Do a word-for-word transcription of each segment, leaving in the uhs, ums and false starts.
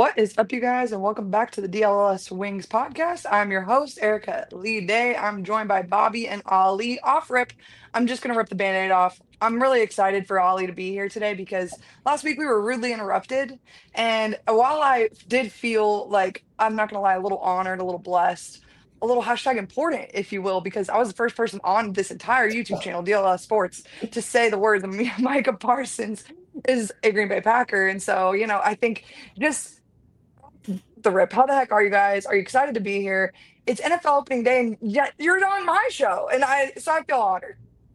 What is up, you guys, and welcome back to the D L S Wings podcast. I'm your host, Erica Lee Day. I'm joined by Bobby and Ali. Off rip, I'm just going to rip the band aid off. I'm really excited for Ali to be here today because last week we were rudely interrupted. And while I did feel like, I'm not going to lie, a little honored, a little blessed, a little hashtag important, if you will, because I was the first person on this entire YouTube channel, D L S Sports, to say the words Micah Parsons is a Green Bay Packer. And so, you know, I think just the rip. How the heck are you guys? Are you excited to be here? It's N F L opening day, and yet you're on my show, and I so I feel honored.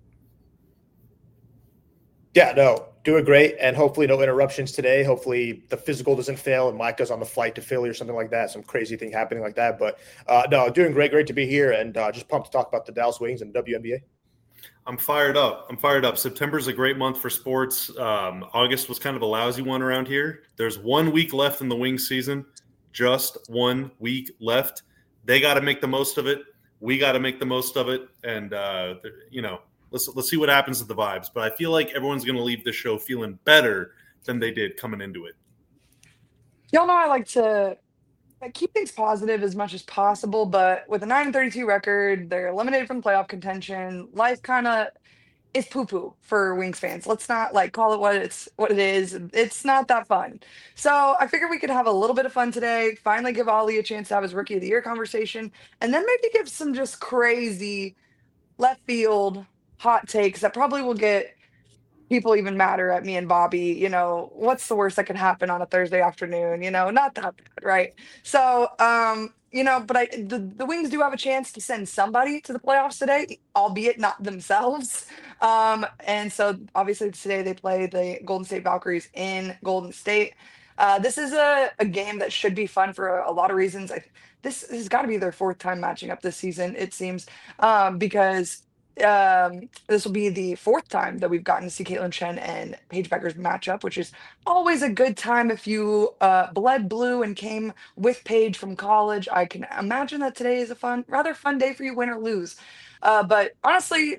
Yeah, no, doing great, and hopefully no interruptions today. Hopefully the physical doesn't fail, and Micah's on the flight to Philly or something like that. Some crazy thing happening like that, but uh, no, doing great. Great to be here, and uh, just pumped to talk about the Dallas Wings and the W N B A. I'm fired up. I'm fired up. September's a great month for sports. Um, August was kind of a lousy one around here. There's one week left in the Wings season. Just one week left. They got to make the most of it. We got to make the most of it. And, uh, you know, let's let's see what happens with the vibes. But I feel like everyone's going to leave this show feeling better than they did coming into it. Y'all know I like to like, keep things positive as much as possible, but with a nine and thirty-two record, they're eliminated from playoff contention. Life kind of is poo-poo for Wings fans. Let's not like call it what it's what it is. It's not that fun. So I figured we could have a little bit of fun today. Finally, give Ollie a chance to have his Rookie of the Year conversation, and then maybe give some just crazy left field hot takes that probably will get people even madder at me and Bobby. You know, what's the worst that can happen on a Thursday afternoon? You know, not that bad, right? So, um, you know, but I the, the Wings do have a chance to send somebody to the playoffs today, albeit not themselves. Um, and so obviously today they play the Golden State Valkyries in Golden State. Uh, this is a, a game that should be fun for a, a lot of reasons. I, this has got to be their fourth time matching up this season, it seems, um, because um, this will be the fourth time that we've gotten to see Caitlin Chen and Paige Becker's matchup, which is always a good time if you uh, bled blue and came with Paige from college. I can imagine that today is a fun, rather fun day for you, win or lose. Uh, but honestly,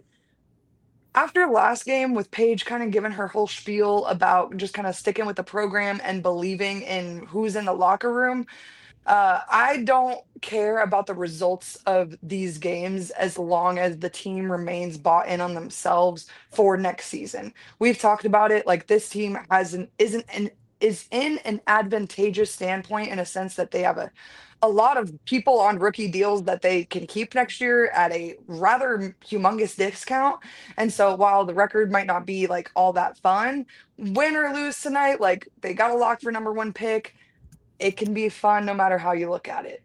after last game with Paige kind of giving her whole spiel about just kind of sticking with the program and believing in who's in the locker room, uh, I don't care about the results of these games as long as the team remains bought in on themselves for next season. We've talked about it. Like this team has an isn't an is in an advantageous standpoint in a sense that they have a a lot of people on rookie deals that they can keep next year at a rather humongous discount. And so while the record might not be like all that fun, win or lose tonight, like they got a lock for number one pick. It can be fun no matter how you look at it.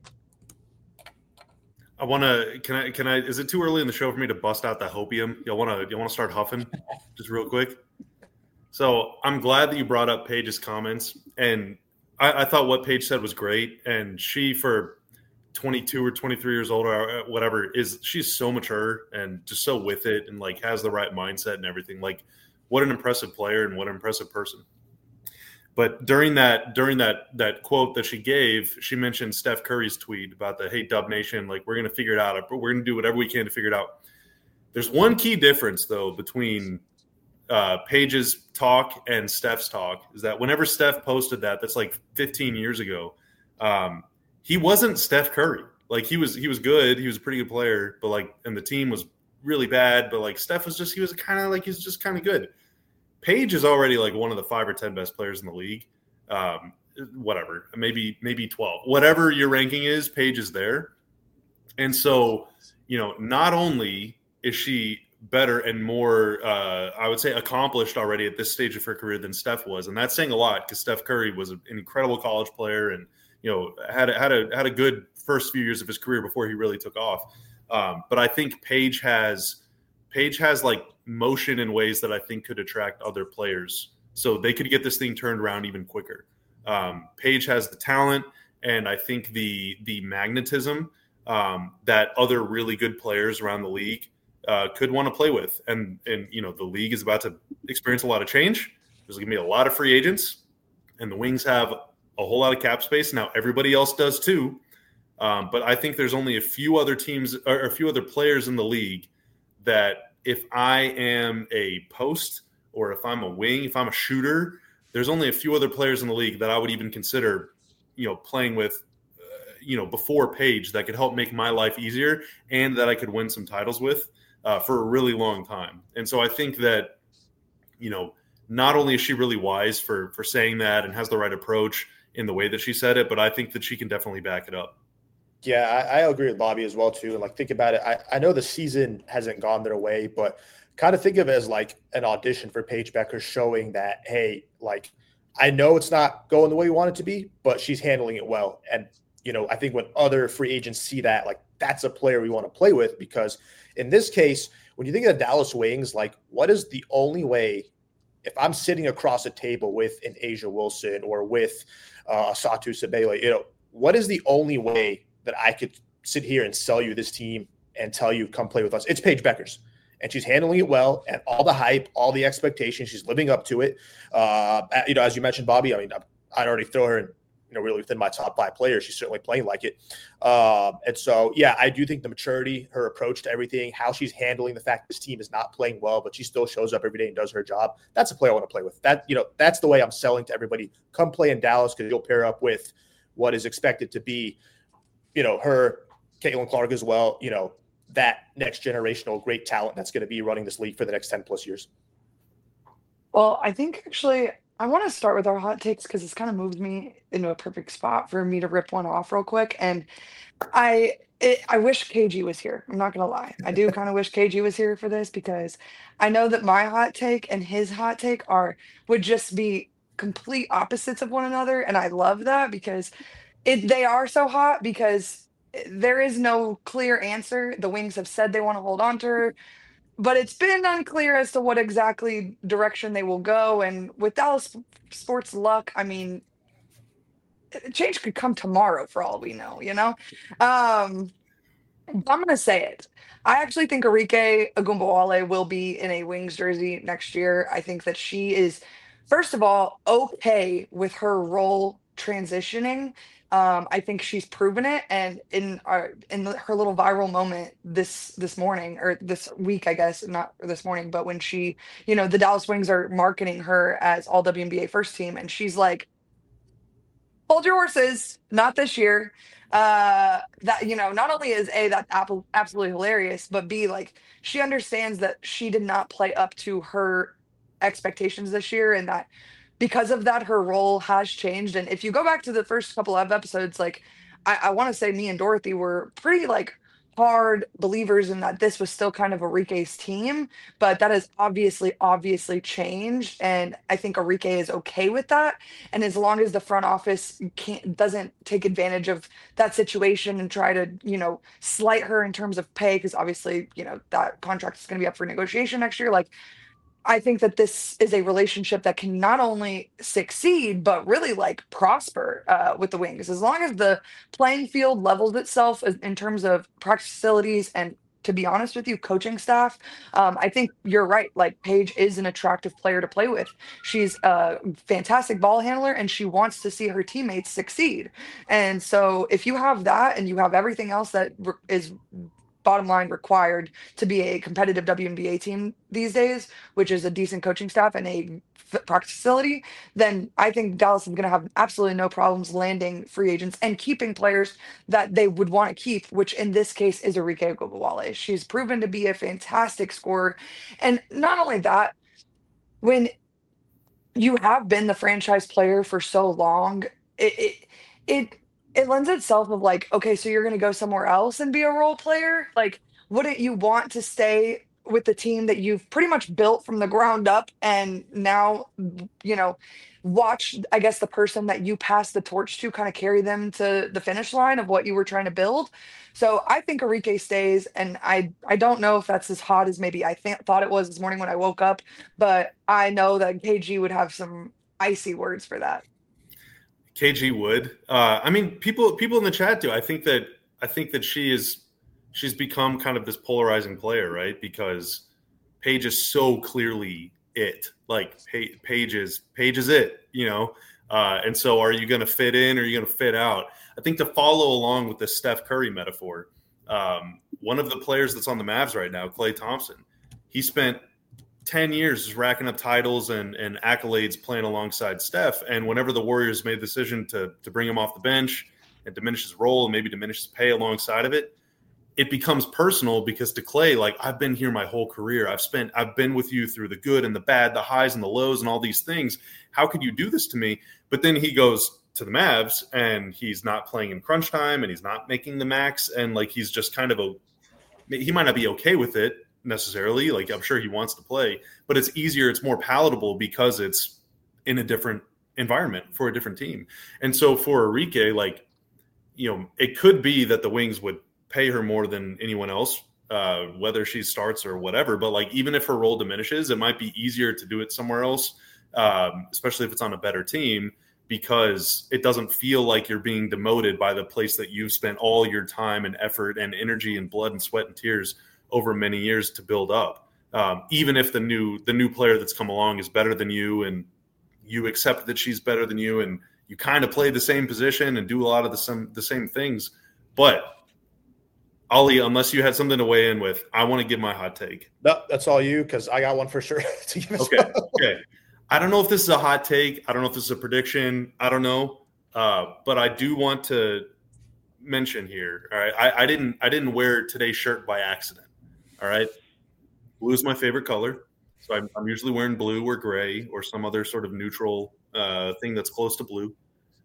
I want to. Can I? Can I? Is it too early in the show for me to bust out the hopium? Y'all want to? You want to start huffing, just real quick? So I'm glad that you brought up Paige's comments, and I, I thought what Paige said was great. And she, for twenty-two or twenty-three years old or whatever, is she's so mature and just so with it, and like has the right mindset and everything. Like, what an impressive player and what an impressive person. But during that during that that quote that she gave, she mentioned Steph Curry's tweet about the "Hey Dub Nation, like we're going to figure it out. We're going to do whatever we can to figure it out." There's one key difference though between uh, Paige's talk and Steph's talk is that whenever Steph posted that, that's like fifteen years ago. Um, he wasn't Steph Curry. Like he was he was good. He was a pretty good player, but like and the team was really bad. But like Steph was just he was kind of like he's just kind of good. Paige is already like one of the five or ten best players in the league. Um, whatever, maybe maybe twelve. Whatever your ranking is, Paige is there. And so, you know, not only is she better and more, uh, I would say, accomplished already at this stage of her career than Steph was, and that's saying a lot because Steph Curry was an incredible college player and you know had a, had a had a good first few years of his career before he really took off. Um, but I think Paige has Paige has like motion in ways that I think could attract other players. So they could get this thing turned around even quicker. Um, Paige has the talent and I think the the magnetism um, that other really good players around the league uh, could want to play with. And, and, you know, the league is about to experience a lot of change. There's going to be a lot of free agents and the Wings have a whole lot of cap space. Now everybody else does too. Um, but I think there's only a few other teams or a few other players in the league that if I am a post or if I'm a wing, if I'm a shooter, there's only a few other players in the league that I would even consider, you know, playing with, uh, you know, before Paige that could help make my life easier and that I could win some titles with uh, for a really long time. And so I think that, you know, not only is she really wise for for saying that and has the right approach in the way that she said it, but I think that she can definitely back it up. Yeah, I, I agree with Bobby as well too. And like, think about it. I, I know the season hasn't gone their way, but kind of think of it as like an audition for Paige Becker, showing that, hey, like, I know it's not going the way we want it to be, but she's handling it well. And, you know, I think when other free agents see that, like, that's a player we want to play with, because in this case, when you think of the Dallas Wings, like, what is the only way, if I'm sitting across a table with an Asia Wilson or with uh, Satu Sabele, you know, what is the only way that I could sit here and sell you this team and tell you, come play with us? It's Paige Becker's. And she's handling it well, and all the hype, all the expectations, she's living up to it. Uh, you know, as you mentioned, Bobby, I mean, I'd already throw her in, you know, really within my top five players. She's certainly playing like it. Um, and so, yeah, I do think the maturity, her approach to everything, how she's handling the fact this team is not playing well, but she still shows up every day and does her job. That's a player I want to play with. That, you know, that's the way I'm selling to everybody. Come play in Dallas, because you'll pair up with what is expected to be, you know, her, Caitlin Clark as well, you know, that next generational great talent that's going to be running this league for the next ten plus years. Well, I think actually I want to start with our hot takes because it's kind of moved me into a perfect spot for me to rip one off real quick. And I it, I wish K G was here. I'm not gonna lie. I do kind of wish K G was here for this, because I know that my hot take and his hot take are would just be complete opposites of one another, and I love that because it they are so hot because there is no clear answer. The Wings have said they want to hold on to her, but it's been unclear as to what exactly direction they will go. And with Dallas sports luck, I mean, change could come tomorrow for all we know, you know? Um, I'm going to say it. I actually think Arike Agumbawale will be in a Wings jersey next year. I think that she is, first of all, okay with her role transitioning. Um, I think she's proven it, and in our in the, her little viral moment this this morning or this week, I guess, not this morning, but when she, you know, the Dallas Wings are marketing her as all W N B A first team, and she's like, "Hold your horses, not this year." Uh, that, you know, not only is A, that apple absolutely hilarious, but B, like, she understands that she did not play up to her expectations this year, and that because of that, her role has changed. And if you go back to the first couple of episodes, like, I, I want to say me and Dorothy were pretty like hard believers in that this was still kind of Arike's team, but that has obviously, obviously changed. And I think Arike is okay with that. And as long as the front office can't doesn't take advantage of that situation and try to, you know, slight her in terms of pay, because obviously, you know, that contract is going to be up for negotiation next year. Like, I think that this is a relationship that can not only succeed, but really like prosper uh, with the Wings. As long as the playing field levels itself as- in terms of practice facilities and, to be honest with you, coaching staff, um, I think you're right. Like, Paige is an attractive player to play with. She's a fantastic ball handler, and she wants to see her teammates succeed. And so if you have that and you have everything else that re- is bottom line required to be a competitive W N B A team these days, which is a decent coaching staff and a f- practice facility, then I think Dallas is going to have absolutely no problems landing free agents and keeping players that they would want to keep, which in this case is Arike Ogunbowale. She's proven to be a fantastic scorer. And not only that, when you have been the franchise player for so long, it it it, it lends itself of like, okay, so you're gonna go somewhere else and be a role player? Like, wouldn't you want to stay with the team that you've pretty much built from the ground up and now, you know, watch, I guess, the person that you passed the torch to kind of carry them to the finish line of what you were trying to build? So I think Arike stays, and I I don't know if that's as hot as maybe I th- thought it was this morning when I woke up, but I know that K G would have some icy words for that. K G would. Uh, I mean, people people in the chat do. I think that I think that she is she's become kind of this polarizing player, right? Because Paige is so clearly it. Like, Pa- Paige is Paige is it, you know. Uh, and so, are you going to fit in, or are you going to fit out? I think to follow along with the Steph Curry metaphor, um, one of the players that's on the Mavs right now, Klay Thompson, he spent ten years is racking up titles and, and accolades playing alongside Steph. And whenever the Warriors made the decision to, to bring him off the bench and diminish his role and maybe diminish his pay alongside of it, it becomes personal because to Klay, like, I've been here my whole career. I've spent, I've been with you through the good and the bad, the highs and the lows and all these things. How could you do this to me? But then he goes to the Mavs and he's not playing in crunch time and he's not making the max. And like, he's just kind of a, he might not be okay with it necessarily. Like, I'm sure he wants to play, but it's easier. It's more palatable because it's in a different environment for a different team. And so for Arike, like, you know, it could be that the Wings would pay her more than anyone else, uh, whether she starts or whatever. But like, even if her role diminishes, it might be easier to do it somewhere else, um, especially if it's on a better team, because it doesn't feel like you're being demoted by the place that you've spent all your time and effort and energy and blood and sweat and tears over many years to build up. Um, even if the new the new player that's come along is better than you and you accept that she's better than you and you kind of play the same position and do a lot of the same, the same things. But Ollie, unless you had something to weigh in with, I want to give my hot take. No, that's all you, because I got one for sure. to give okay. Okay. I don't know if this is a hot take. I don't know if this is a prediction. I don't know. Uh, but I do want to mention here. All right. I, I didn't I didn't wear today's shirt by accident. All right. Blue is my favorite color. So I'm, I'm usually wearing blue or gray or some other sort of neutral uh, thing that's close to blue.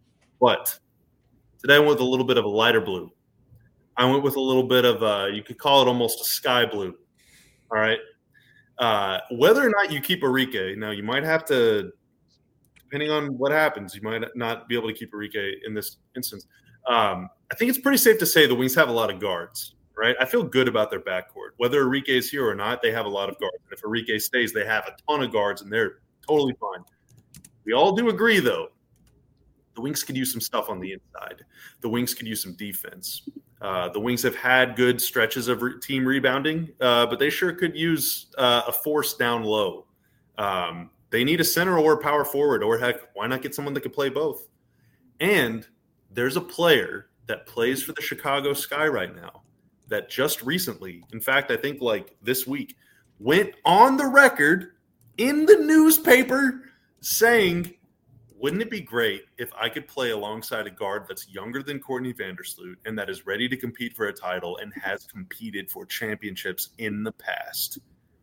But today I went with a little bit of a lighter blue. I went with a little bit of, uh, you could call it almost a sky blue. All right. Uh, whether or not you keep Arike, now you might have to, depending on what happens, you might not be able to keep Arike in this instance. Um, I think it's pretty safe to say the Wings have a lot of guards, right? I feel good about their backcourt. Whether Arike is here or not, they have a lot of guards. And if Arike stays, they have a ton of guards, and they're totally fine. We all do agree, though, the Wings could use some stuff on the inside. The Wings could use some defense. Uh, the Wings have had good stretches of re- team rebounding, uh, but they sure could use uh, a force down low. Um, they need a center or a power forward, or heck, why not get someone that can play both? And there's a player that plays for the Chicago Sky right now that just recently, in fact, I think like this week, went on the record in the newspaper saying, wouldn't it be great if I could play alongside a guard that's younger than Courtney Vandersloot and that is ready to compete for a title and has competed for championships in the past?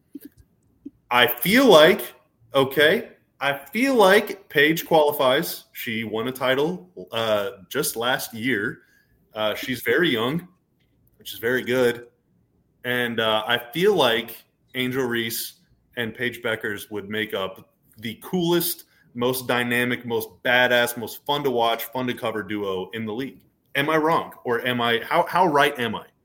I feel like, okay, I feel like Paige qualifies. She won a title uh, just last year. Uh, she's very young, which is very good. And uh, I feel like Angel Reese and Paige Beckers would make up the coolest, most dynamic, most badass, most fun to watch, fun to cover duo in the league. Am I wrong? Or am I, how, how right am I?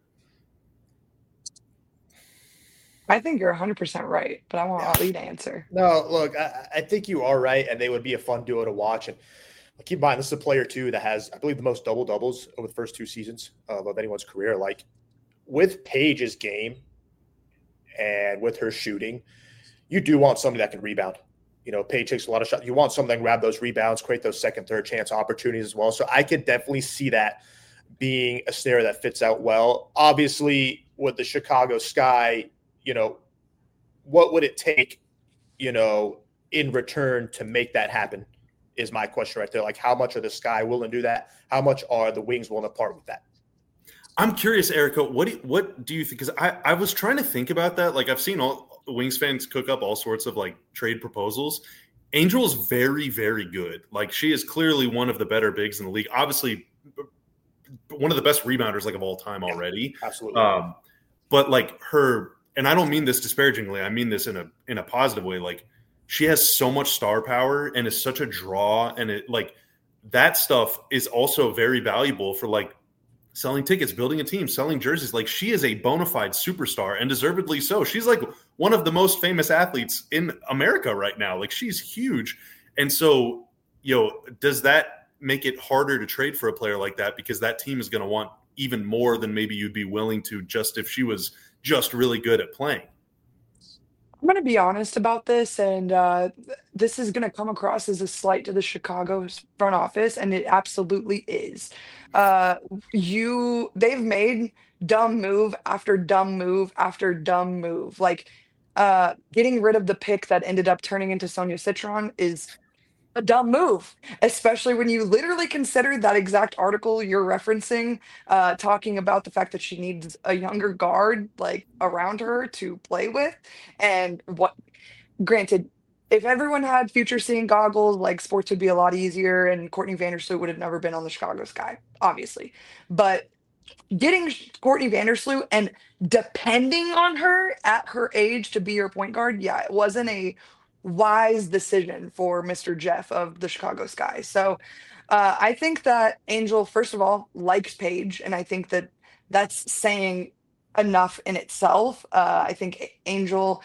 I think you're one hundred percent right, but I want Ali to answer. No, look, I, I think you are right, and they would be a fun duo to watch. And keep in mind, this is a player, too, that has, I believe, the most double-doubles over the first two seasons of, of anyone's career. Like, with Paige's game and with her shooting, you do want somebody that can rebound. You know, Paige takes a lot of shots. You want something to grab those rebounds, create those second, third chance opportunities as well. So I could definitely see that being a scenario that fits out well. Obviously, with the Chicago Sky, you know, what would it take, you know, in return to make that happen is my question right there. Like, how much are the Sky willing to do that? How much are the Wings willing to part with that? I'm curious, Erica, what do you, what do you think? Because I, I was trying to think about that. Like, I've seen all Wings fans cook up all sorts of like trade proposals. Angel's very, very good. Like, she is clearly one of the better bigs in the league. Obviously, one of the best rebounders like of all time already. Yeah, absolutely. Um, but like her, and I don't mean this disparagingly. I mean this in a in a positive way. Like, she has so much star power and is such a draw, and it like that stuff is also very valuable for like selling tickets, building a team, selling jerseys. Like, she is a bona fide superstar, and deservedly so. She's like one of the most famous athletes in America right now. Like, she's huge. And so, you know, does that make it harder to trade for a player like that? Because that team is going to want even more than maybe you'd be willing to just if she was just really good at playing. I'm going to be honest about this, and uh, th- this is going to come across as a slight to the Chicago s- front office, and it absolutely is. Uh, you, they've made dumb move after dumb move after dumb move. Like, uh, getting rid of the pick that ended up turning into Sonia Citron is a dumb move, especially when you literally consider that exact article you're referencing, uh, talking about the fact that she needs a younger guard like around her to play with. And what, granted, if everyone had future seeing goggles, like sports would be a lot easier, and Courtney Vandersloot would have never been on the Chicago Sky, obviously. But getting Courtney Vandersloot and depending on her at her age to be your point guard, yeah, it wasn't a wise decision for mister Jeff of the Chicago Sky. So uh, I think that Angel, first of all, likes Paige, and I think that that's saying enough in itself. Uh, I think Angel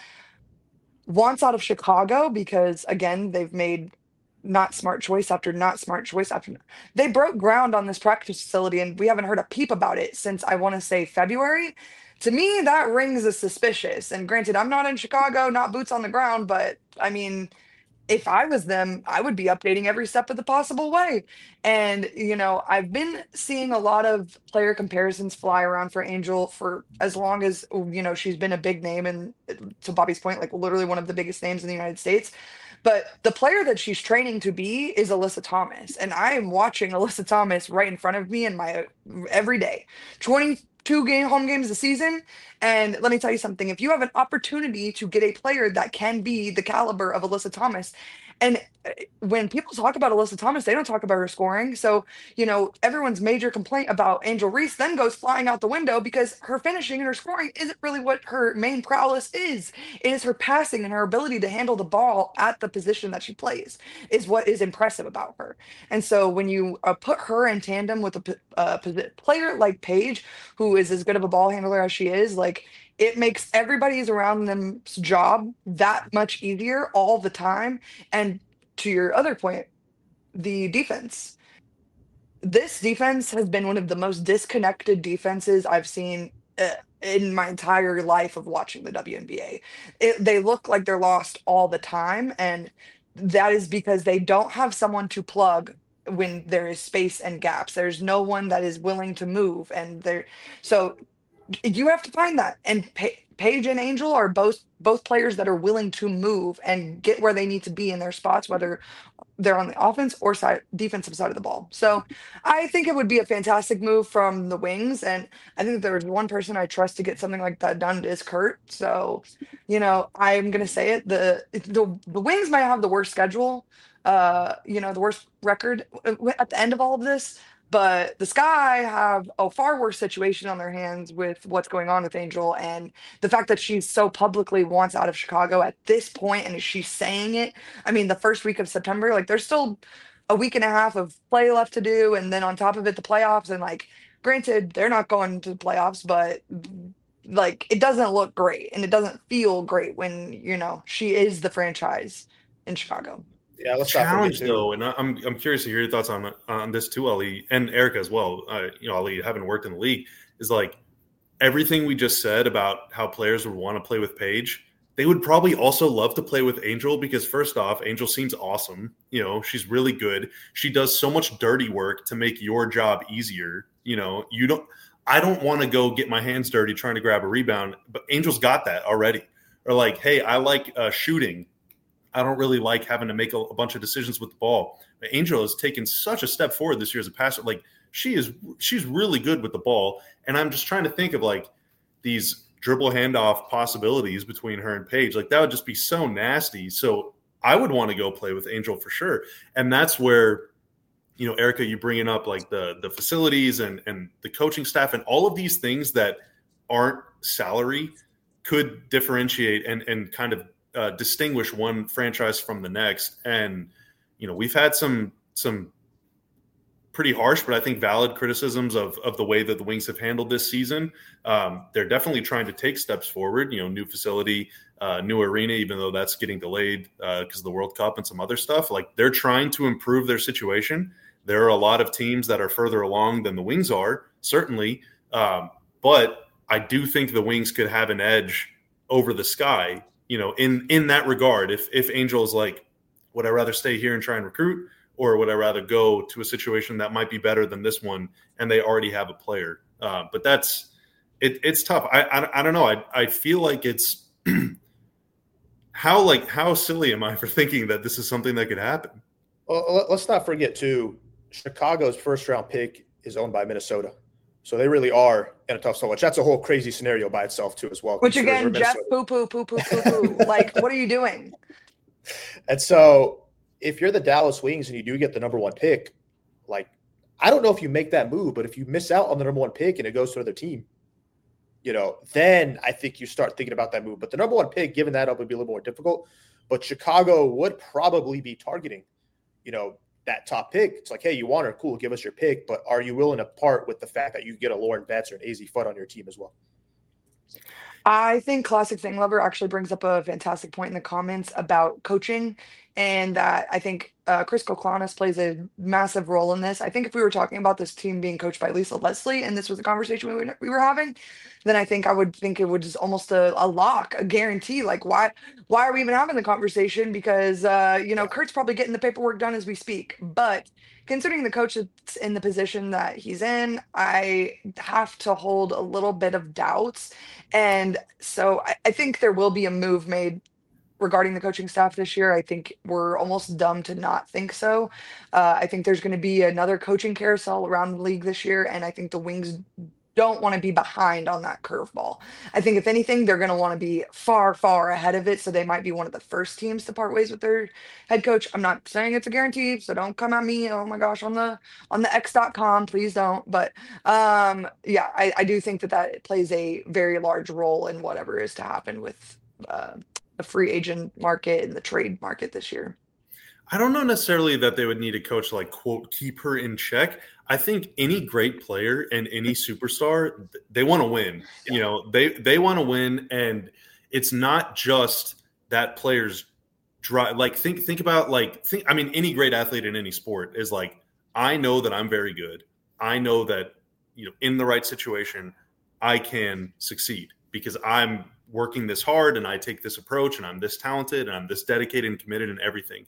wants out of Chicago because, again, they've made not smart choice after not smart choice after they broke ground on this practice facility, and we haven't heard a peep about it since I want to say February. To me, that rings as suspicious. And granted, I'm not in Chicago, not boots on the ground, but I mean, if I was them, I would be updating every step of the possible way. And, you know, I've been seeing a lot of player comparisons fly around for Angel for as long as, you know, she's been a big name. And to Bobby's point, like literally one of the biggest names in the United States. But the player that she's training to be is Alyssa Thomas. And I am watching Alyssa Thomas right in front of me in my every day. twenty-two game home games a season. And let me tell you something, if you have an opportunity to get a player that can be the caliber of Alyssa Thomas, and uh, when people talk about Alyssa Thomas, they don't talk about her scoring. So, you know, everyone's major complaint about Angel Reese then goes flying out the window because her finishing and her scoring isn't really what her main prowess is. It is her passing and her ability to handle the ball at the position that she plays is what is impressive about her. And so when you uh, put her in tandem with a p- uh, posi- player like Paige, who is as good of a ball handler as she is, like it makes everybody's around them's job that much easier all the time. And to your other point, the defense. This defense has been one of the most disconnected defenses I've seen uh, in my entire life of watching the W N B A. It, they look like they're lost all the time, and that is because they don't have someone to plug when there is space and gaps. There's no one that is willing to move, and there. So you have to find that. And pa- Paige and Angel are both both players that are willing to move and get where they need to be in their spots, whether they're on the offense or side defensive side of the ball. So I think it would be a fantastic move from the Wings. And I think if there's one person I trust to get something like that done, it is Kurt. So, you know, I'm gonna say it. The the the Wings might have the worst schedule, uh, you know, the worst record uh, at the end of all of this. But the Sky have a far worse situation on their hands with what's going on with Angel, and the fact that she so publicly wants out of Chicago at this point, and she's saying it. I mean, the first week of September, like there's still a week and a half of play left to do, and then on top of it, the playoffs. And like, granted, they're not going to the playoffs, but like it doesn't look great, and it doesn't feel great when you know she is the franchise in Chicago. Yeah, let's challenge though, and I'm I'm curious to hear your thoughts on on this too, Ali, and Erica as well. Uh, you know, Ali, having worked in the league, is like everything we just said about how players would want to play with Paige. They would probably also love to play with Angel because first off, Angel seems awesome. You know, she's really good. She does so much dirty work to make your job easier. You know, you don't. I don't want to go get my hands dirty trying to grab a rebound, but Angel's got that already. Or like, hey, I like uh, shooting. I don't really like having to make a, a bunch of decisions with the ball. But Angel has taken such a step forward this year as a passer. Like she is, she's really good with the ball. And I'm just trying to think of like these dribble handoff possibilities between her and Paige. Like that would just be so nasty. So I would want to go play with Angel for sure. And that's where, you know, Erica, you bringing up like the the facilities and and the coaching staff and all of these things that aren't salary could differentiate and and kind of Uh, distinguish one franchise from the next. And, you know, we've had some some pretty harsh, but I think valid criticisms of of the way that the Wings have handled this season. Um, they're definitely trying to take steps forward, you know, new facility, uh, new arena, even though that's getting delayed because uh, of the World Cup and some other stuff. Like they're trying to improve their situation. There are a lot of teams that are further along than the Wings are, certainly. Um, but I do think the Wings could have an edge over the Sky, you know, in, in that regard. If if Angel is like, would I rather stay here and try and recruit, or would I rather go to a situation that might be better than this one and they already have a player? Uh, but that's it, it's tough. I, I I don't know. I I feel like it's how like how silly am I for thinking that this is something that could happen? Well, let's not forget too, Chicago's first round pick is owned by Minnesota. So they really are in a tough spot, which that's a whole crazy scenario by itself too as well. Which again, Jeff poo poo poo poo poo poo. Like, what are you doing? And so if you're the Dallas Wings and you do get the number one pick, like, I don't know if you make that move, but if you miss out on the number one pick and it goes to another team, you know, then I think you start thinking about that move. But the number one pick, giving that up would be a little more difficult. But Chicago would probably be targeting, you know, that top pick. It's like, hey, you want her, cool, give us your pick. But are you willing to part with the fact that you get a Lauren Betts or an A Z Fudd on your team as well? I think Classic Thing Lover actually brings up a fantastic point in the comments about coaching, and that I think uh, Chris Koklanis plays a massive role in this. I think if we were talking about this team being coached by Lisa Leslie, and this was a conversation we were, we were having, then I think I would think it was almost a, a lock, a guarantee. Like, why why are we even having the conversation? Because uh, you know, Kurt's probably getting the paperwork done as we speak. But considering the coach that's in the position that he's in, I have to hold a little bit of doubts. And so I, I think there will be a move made regarding the coaching staff this year. I think we're almost dumb to not think so. Uh, I think there's going to be another coaching carousel around the league this year, and I think the Wings don't want to be behind on that curveball. I think if anything, they're going to want to be far, far ahead of it. So they might be one of the first teams to part ways with their head coach. I'm not saying it's a guarantee, so don't come at me. Oh my gosh, on the on the X dot com, please don't. But um, yeah, I, I do think that that plays a very large role in whatever is to happen with uh, the free agent market and the trade market this year. I don't know necessarily that they would need a coach to, like, quote, keep her in check. I think any great player and any superstar, they want to win. Yeah. You know, they they want to win, and it's not just that player's drive. Like, think think about like think. I mean, any great athlete in any sport is like, I know that I'm very good. I know that, you know, in the right situation, I can succeed because I'm working this hard and I take this approach and I'm this talented and I'm this dedicated and committed and everything.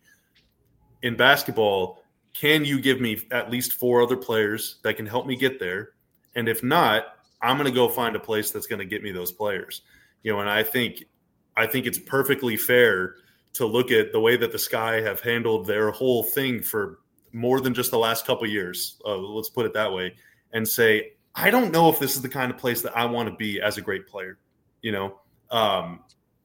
In basketball, can you give me at least four other players that can help me get there? And if not, I'm going to go find a place that's going to get me those players. You know, and I think I think it's perfectly fair to look at the way that the Sky have handled their whole thing for more than just the last couple of years. Uh, let's put it that way, and say, I don't know if this is the kind of place that I want to be as a great player. You know, um,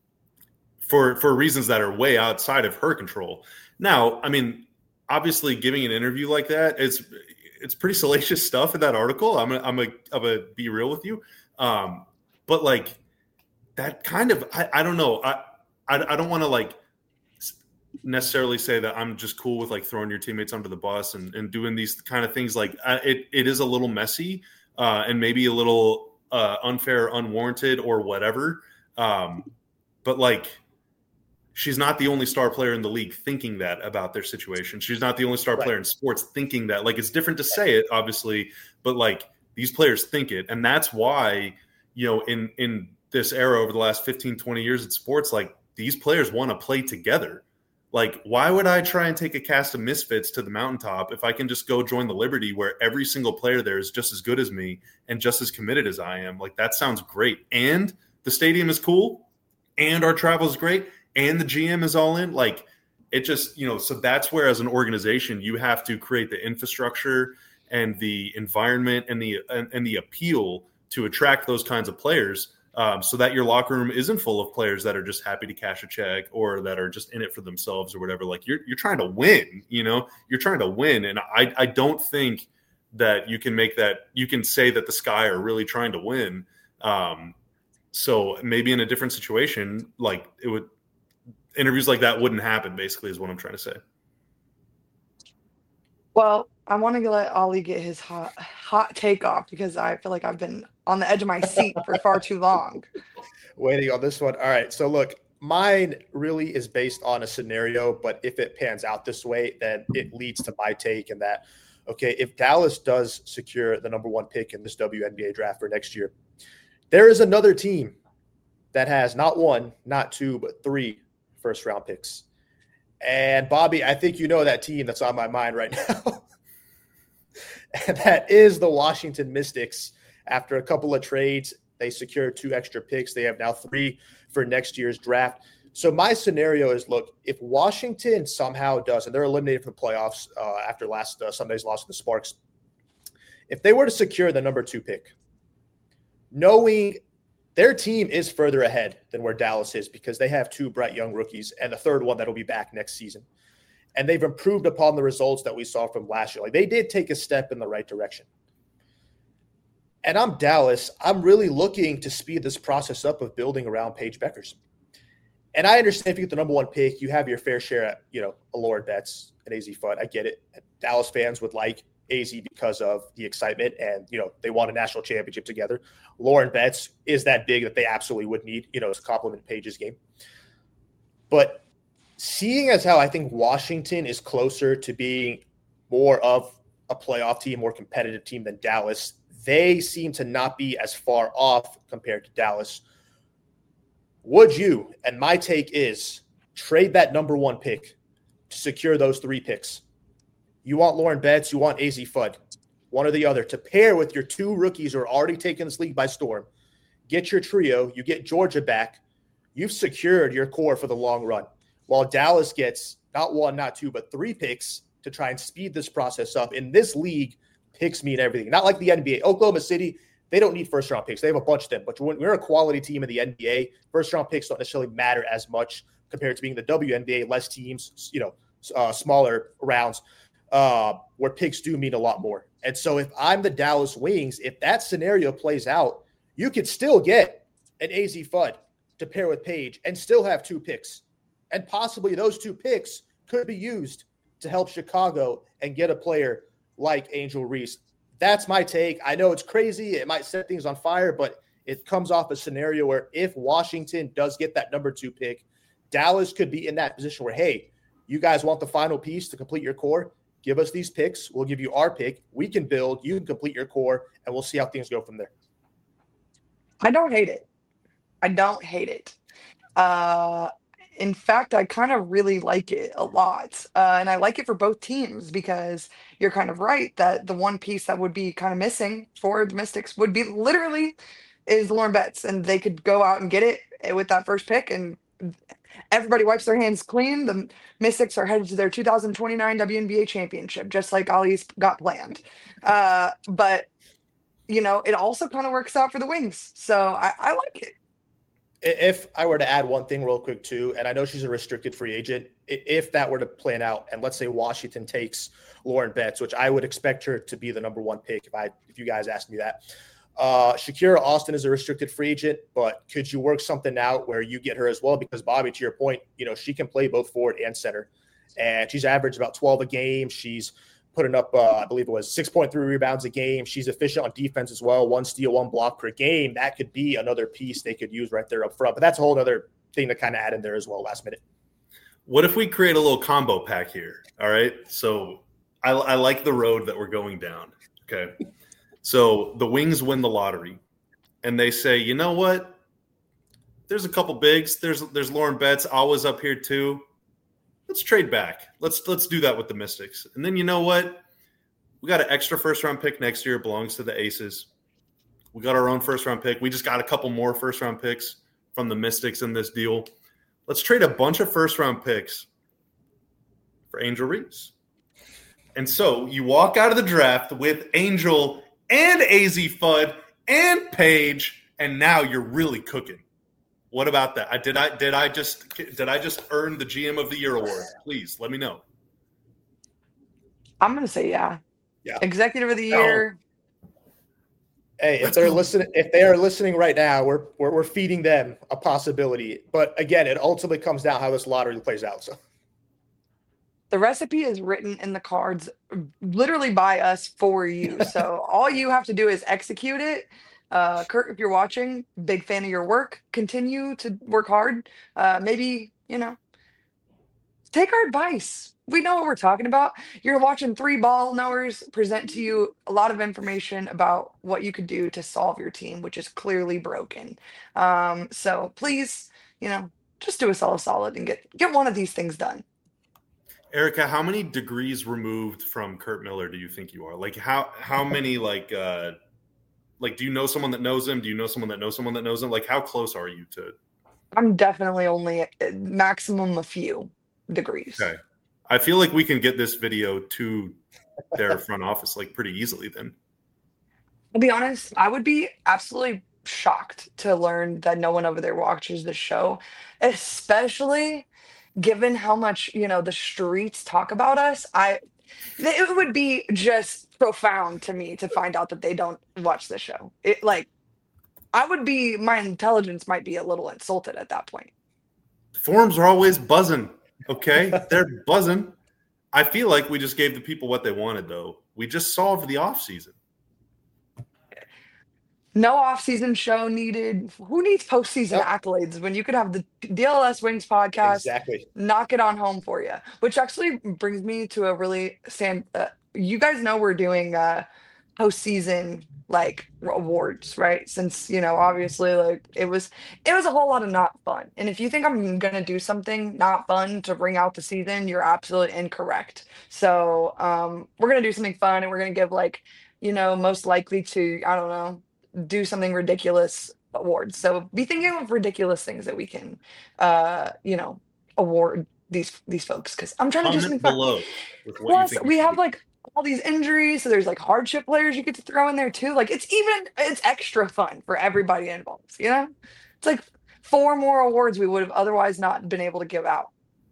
for for reasons that are way outside of her control. Now, I mean, obviously, giving an interview like that, it's it's pretty salacious stuff in that article. I'm gonna, I'm gonna, I'm gonna be real with you, um, but like that kind of, I, I don't know, I I, I don't want to like necessarily say that I'm just cool with like throwing your teammates under the bus and, and doing these kind of things. Like I, it it is a little messy uh, and maybe a little uh, unfair, unwarranted, or whatever. Um, but like. She's not the only star player in the league thinking that about their situation. She's not the only star right. player in sports thinking that. Like, it's different to say it, obviously, but like these players think it. And that's why, you know, in, in this era over the last fifteen, twenty years in sports, like these players want to play together. Like, why would I try and take a cast of misfits to the mountaintop if I can just go join the Liberty where every single player there is just as good as me and just as committed as I am? Like, that sounds great. And the stadium is cool and our travel is great. And the G M is all in, like it just, you know, so that's where as an organization, you have to create the infrastructure and the environment and the, and, and the appeal to attract those kinds of players um, so that your locker room isn't full of players that are just happy to cash a check or that are just in it for themselves or whatever. Like you're, you're trying to win, you know, you're trying to win. And I, I don't think that you can make that, you can say that the Sky are really trying to win. Um, so maybe in a different situation, like it would, interviews like that wouldn't happen, basically, is what I'm trying to say. Well, I want to let Ollie get his hot hot take off because I feel like I've been on the edge of my seat for far too long. Waiting on this one. All right. So look, mine really is based on a scenario, but if it pans out this way, then it leads to my take and that, okay, if Dallas does secure the number one pick in this W N B A draft for next year, there is another team that has not one, not two, but three first round picks. And Bobby, I think you know that team that's on my mind right now. And that is the Washington Mystics. After a couple of trades, they secured two extra picks. They have now three for next year's draft. So my scenario is, look, if Washington somehow does, and they're eliminated from the playoffs uh, after last uh, Sunday's loss to the Sparks, if they were to secure the number two pick, knowing their team is further ahead than where Dallas is because they have two bright young rookies and a third one that'll be back next season. And they've improved upon the results that we saw from last year. Like, they did take a step in the right direction. And I'm Dallas. I'm really looking to speed this process up of building around Paige Bueckers. And I understand if you get the number one pick, you have your fair share at, you know, a Lauren Betts and A Z Fudd. I get it. Dallas fans would like A Z because of the excitement and, you know, they won a national championship together. Lauren Betts is that big that they absolutely would need, you know, to complement Paige's game. But seeing as how I think Washington is closer to being more of a playoff team, more competitive team than Dallas, they seem to not be as far off compared to Dallas. Would you, and my take is, trade that number one pick to secure those three picks? You want Lauren Betts, you want A Z Fudd, one or the other, to pair with your two rookies who are already taking this league by storm. Get your trio, you get Georgia back, you've secured your core for the long run. While Dallas gets not one, not two, but three picks to try and speed this process up. In this league, picks mean everything. Not like the N B A. Oklahoma City, they don't need first-round picks. They have a bunch of them. But when we're a quality team in the N B A, first-round picks don't necessarily matter as much compared to being the W N B A, less teams, you know, uh, smaller rounds, uh, where picks do mean a lot more. And so if I'm the Dallas Wings, if that scenario plays out, you could still get an A Z Fudd to pair with Paige and still have two picks. And possibly those two picks could be used to help Chicago and get a player like Angel Reese. That's my take. I know it's crazy. It might set things on fire, but it comes off a scenario where if Washington does get that number two pick, Dallas could be in that position where, hey, you guys want the final piece to complete your core? Give us these picks. We'll give you our pick. We can build. You can complete your core, and we'll see how things go from there. I don't hate it. I don't hate it. Uh, in fact, I kind of really like it a lot. Uh, and I like it for both teams because you're kind of right that the one piece that would be kind of missing for the Mystics would be literally is Lauren Betts. And they could go out and get it with that first pick and everybody wipes their hands clean. The Mystics are headed to their two thousand twenty-nine W N B A championship, just like Ollie's got planned. Uh, but, you know, it also kind of works out for the Wings. So I, I like it. If I were to add one thing real quick too, and I know she's a restricted free agent, if that were to plan out, and let's say Washington takes Lauren Betts, which I would expect her to be the number one pick if I if you guys asked me that. Uh, Shakira Austin is a restricted free agent, but could you work something out where you get her as well? Because Bobby, to your point, you know, she can play both forward and center, and she's averaged about twelve a game. She's putting up, uh, I believe it was six point three rebounds a game. She's efficient on defense as well. One steal, one block per game. That could be another piece they could use right there up front. But that's a whole other thing to kind of add in there as well last minute. What if we create a little combo pack here? All right. So I, I like the road that we're going down. Okay. So the Wings win the lottery and they say, you know what? There's a couple bigs. There's there's Lauren Betts. Always up here too. Let's trade back. Let's let's do that with the Mystics. And then you know what? We got an extra first-round pick next year. It belongs to the Aces. We got our own first-round pick. We just got a couple more first-round picks from the Mystics in this deal. Let's trade a bunch of first-round picks for Angel Reese. And so you walk out of the draft with Angel and A Z Fudd and Paige, and now you're really cooking. What about that? I did I did I just did I just earn the G M of the Year award? Please let me know. I'm gonna say yeah. Yeah. Executive of the Year. No. Hey, if they're listening, if they are listening right now, we're, we're we're feeding them a possibility. But again, it ultimately comes down how this lottery plays out. So the recipe is written in the cards, literally by us for you. So all you have to do is execute it. Uh, Kurt, if you're watching, big fan of your work. Continue to work hard. Uh, maybe, you know, take our advice. We know what we're talking about. You're watching three ball knowers present to you a lot of information about what you could do to solve your team, which is clearly broken. Um, so please, you know, just do us all a solid and get, get one of these things done. Erica, how many degrees removed from Kurt Miller do you think you are? Like how, how many, like, uh, Like, do you know someone that knows him? Do you know someone that knows someone that knows him? Like, how close are you to I'm definitely only at maximum a few degrees. Okay. I feel like we can get this video to their front office like pretty easily then. I'll be honest, I would be absolutely shocked to learn that no one over there watches the show, especially given how much, you know, the streets talk about us. I it would be just profound to me to find out that they don't watch the show. It like I would be my intelligence might be a little insulted at that point. Forums are always buzzing. Okay. They're buzzing. I feel like we just gave the people what they wanted though. We just solved the off season. No off-season show needed. Who needs postseason Yep. accolades when you could have the D L S Wings podcast Exactly. knock it on home for you? Which actually brings me to a really Sam. Uh, you guys know we're doing uh, postseason like awards, right? Since you know, obviously, like it was, it was a whole lot of not fun. And if you think I'm gonna do something not fun to bring out the season, you're absolutely incorrect. So um, we're gonna do something fun, and we're gonna give like, you know, most likely to I don't know do something ridiculous awards. So be thinking of ridiculous things that we can, uh, you know, award these these folks because I'm trying to do something Comment fun. below with what you Plus, think we should have do. like all these injuries, so there's like hardship players you get to throw in there too. Like it's even it's extra fun for everybody involved. You know, it's like four more awards we would have otherwise not been able to give out.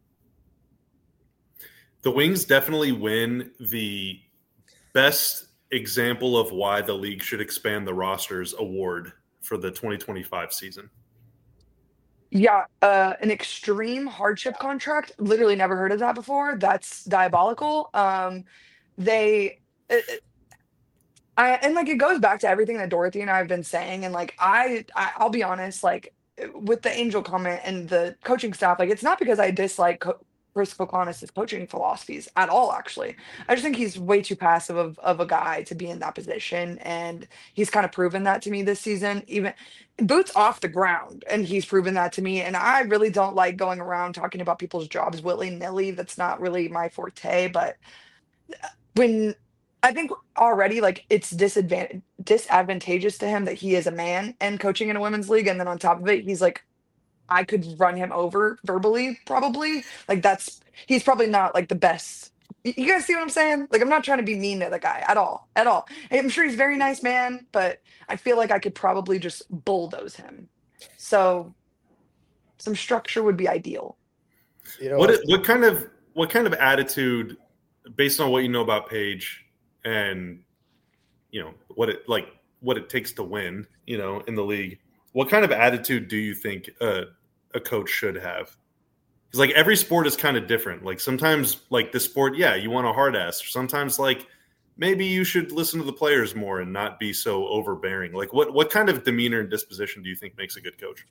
The Wings definitely win the best example of why the league should expand the rosters award for the twenty twenty-five season. Yeah, uh, an extreme hardship contract. Literally never heard of that before. That's diabolical. Um, they, it, it- I, and like it goes back to everything that Dorothy and I have been saying. And like I, I I'll be honest, like with the Angel comment and the coaching staff, like it's not because I dislike Co- Chris Kokonis' coaching philosophies at all. Actually, I just think he's way too passive of of a guy to be in that position, and he's kind of proven that to me this season. Even boots off the ground, and he's proven that to me. And I really don't like going around talking about people's jobs willy nilly. That's not really my forte. But when I think already like it's disadvantage disadvantageous to him that he is a man and coaching in a women's league, and then on top of it, he's like I could run him over verbally, probably. Like that's he's probably not like the best. Y- You guys see what I'm saying? Like I'm not trying to be mean to the guy at all, at all. I'm sure he's a very nice man, but I feel like I could probably just bulldoze him. So some structure would be ideal. You know, What what kind of what kind of attitude, based on what you know about Paige and you know what it like what it takes to win, you know, in the league, what kind of attitude do you think uh, a coach should have? Because like every sport is kind of different. Like sometimes like the sport, yeah, you want a hard ass. Sometimes like maybe you should listen to the players more and not be so overbearing. Like what what kind of demeanor and disposition do you think makes a good coach?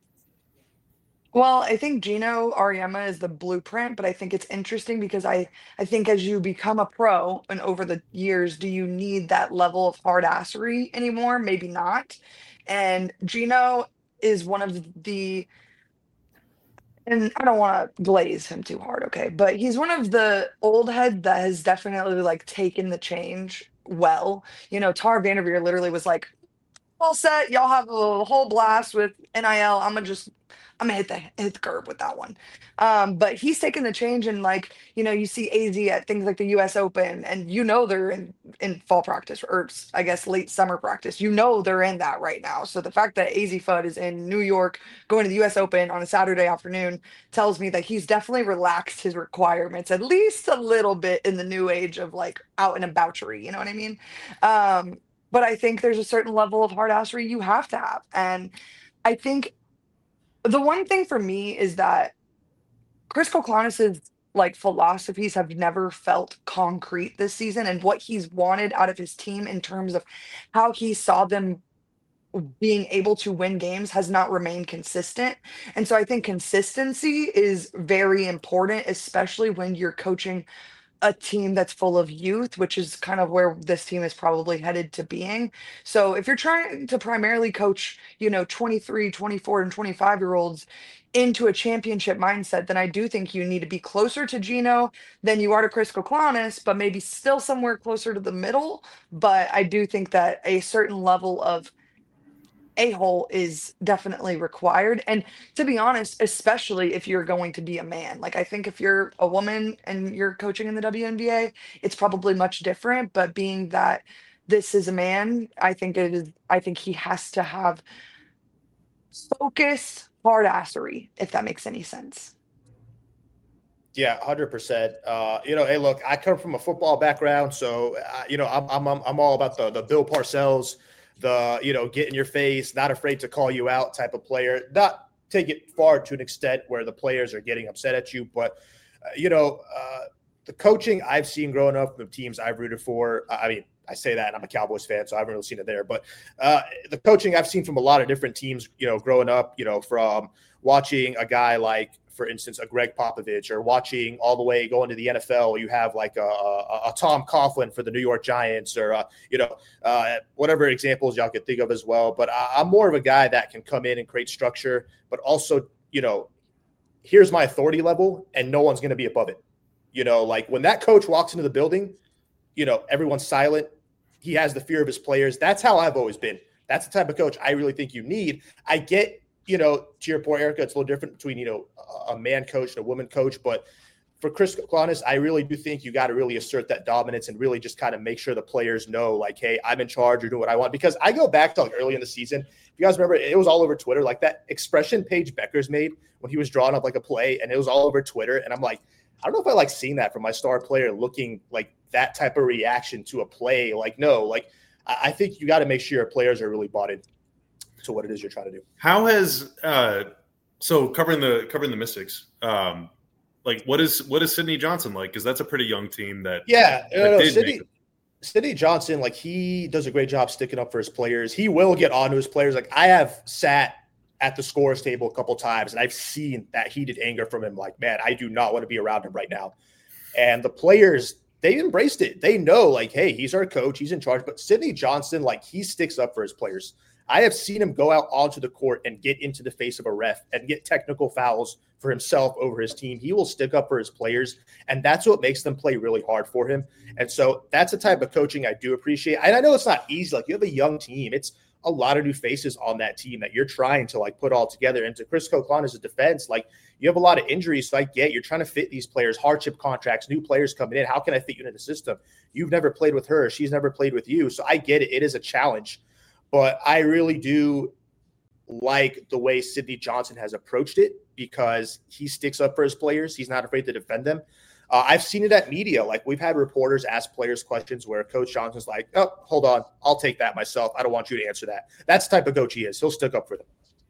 Well, I think Gino Ariema is the blueprint, but I think it's interesting because I I think as you become a pro and over the years, do you need that level of hard assery anymore? Maybe not. And Gino is one of the and I don't want to glaze him too hard, okay? But he's one of the old heads that has definitely like taken the change well. You know, Tar Vanderveer literally was like, all set. Y'all have a whole blast with N I L. I'm gonna just, I'm gonna hit the hit the curb with that one. Um, but he's taking the change, and like you know, you see A Z at things like the U S Open, and you know they're in in fall practice or s- I guess late summer practice. You know they're in that right now. So the fact that A Z Fudd is in New York going to the U S Open on a Saturday afternoon tells me that he's definitely relaxed his requirements at least a little bit in the new age of like out and aboutery. You know what I mean? Um, but I think there's a certain level of hard assery you have to have. And I think the one thing for me is that Chris Koklanis's like philosophies have never felt concrete this season and what he's wanted out of his team in terms of how he saw them being able to win games has not remained consistent. And so I think consistency is very important, especially when you're coaching a team that's full of youth, which is kind of where this team is probably headed to being. So if you're trying to primarily coach, you know, twenty-three, twenty-four, and twenty-five year olds into a championship mindset, then I do think you need to be closer to Gino than you are to Chris Koklanis, but maybe still somewhere closer to the middle. But I do think that a certain level of a-hole is definitely required. And to be honest, especially if you're going to be a man, like I think if you're a woman and you're coaching in the W N B A, it's probably much different. But being that this is a man, I think it is, I think he has to have focus, hard assery, if that makes any sense. Yeah, one hundred percent. Uh, you know, hey, look, I come from a football background, so uh, you know, I'm I'm I'm all about the the Bill Parcells, the you know, get in your face, not afraid to call you out type of player. Not take it far to an extent where the players are getting upset at you, but uh, you know, uh, the coaching I've seen growing up, the teams I've rooted for. I mean, I say that and I'm a Cowboys fan, so I haven't really seen it there. But uh, the coaching I've seen from a lot of different teams, you know, growing up, you know, from watching a guy like, for instance, a Greg Popovich, or watching all the way going to the N F L, you have like a, a, a Tom Coughlin for the New York Giants, or, uh, you know, uh, whatever examples y'all could think of as well. But I, I'm more of a guy that can come in and create structure, but also, you know, here's my authority level and no one's going to be above it. You know, like when that coach walks into the building, you know, everyone's silent. He has the fear of his players. That's how I've always been. That's the type of coach I really think you need. I get, you know, to your point, Erica, it's a little different between, you know, a man coach and a woman coach. But for Chris Klonis, I really do think you got to really assert that dominance and really just kind of make sure the players know, like, hey, I'm in charge or doing what I want. Because I go back to like early in the season. If you guys remember, it was all over Twitter. Like that expression Paige Beckers made when he was drawing up like a play, and it was all over Twitter. And I'm like, I don't know if I like seeing that from my star player looking like that type of reaction to a play. Like, no, like I think you got to make sure your players are really bought in to what it is you're trying to do. How has uh, so covering the covering the Mystics? Um, like, what is what is Sydney Johnson like? Because that's a pretty young team. That yeah, that no, no, did Sydney, make it. Sydney Johnson, like he does a great job sticking up for his players. He will get on to his players. Like I have sat at the scores table a couple times, and I've seen that heated anger from him. Like, man, I do not want to be around him right now. And the players, they embraced it. They know, like, hey, he's our coach, he's in charge. But Sydney Johnson, like, he sticks up for his players. I have seen him go out onto the court and get into the face of a ref and get technical fouls for himself over his team. He will stick up for his players, and that's what makes them play really hard for him. And so that's the type of coaching I do appreciate. And I know it's not easy. Like, you have a young team. It's a lot of new faces on that team that you're trying to, like, put all together. And to Chris Klonis' defense, like, you have a lot of injuries, so I get you're trying to fit these players, hardship contracts, new players coming in. How can I fit you into the system? You've never played with her. She's never played with you. So I get it. It is a challenge. But I really do like the way Sydney Johnson has approached it because he sticks up for his players. He's not afraid to defend them. Uh, I've seen it at media. Like, we've had reporters ask players questions where Coach Johnson's like, oh, hold on. I'll take that myself. I don't want you to answer that. That's the type of coach he is. He'll stick up for them.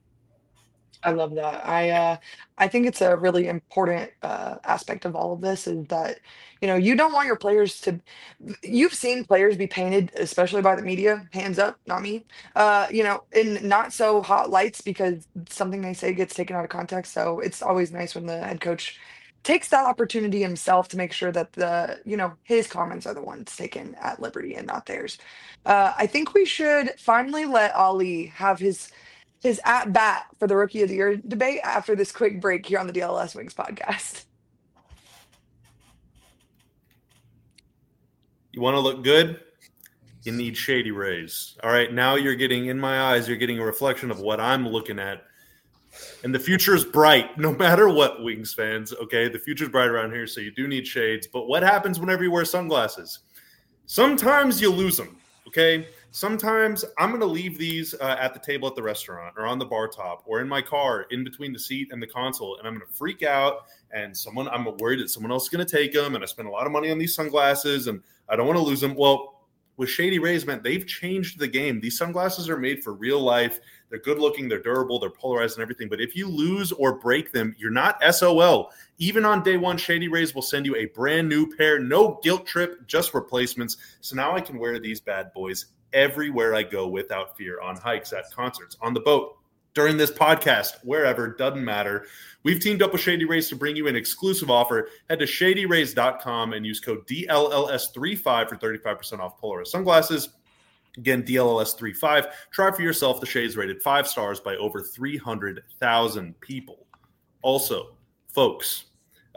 I love that. I uh, I think it's a really important uh, aspect of all of this is that, you know, you don't want your players to. You've seen players be painted, especially by the media. Hands up, not me. Uh, you know, in not so hot lights because something they say gets taken out of context. So it's always nice when the head coach takes that opportunity himself to make sure that the, you know, his comments are the ones taken at liberty and not theirs. Uh, I think we should finally let Ali have his his at bat for the Rookie of the Year debate after this quick break here on the D L S Wings podcast. You want to look good? You need Shady Rays. All right, now you're getting, in my eyes, you're getting a reflection of what I'm looking at. And the future is bright, no matter what, Wings fans, okay? The future is bright around here, so you do need shades. But what happens whenever you wear sunglasses? Sometimes you lose them, okay? Sometimes I'm going to leave these uh, at the table at the restaurant or on the bar top or in my car in between the seat and the console, and I'm going to freak out, and someone I'm worried that someone else is going to take them, and I spend a lot of money on these sunglasses, and I don't want to lose them. Well, with Shady Rays, man, they've changed the game. These sunglasses are made for real life. They're good looking, they're durable, they're polarized and everything. But if you lose or break them, you're not S O L. Even on day one, Shady Rays will send you a brand new pair. No guilt trip, just replacements. So now I can wear these bad boys everywhere I go without fear, on hikes, at concerts, on the boat, during this podcast, wherever, doesn't matter. We've teamed up with Shady Rays to bring you an exclusive offer. Head to shady rays dot com and use code D L L S thirty-five for thirty-five percent off Polaris sunglasses. Again, D L L S thirty-five. Try for yourself. The shades rated five stars by over three hundred thousand people. Also, folks,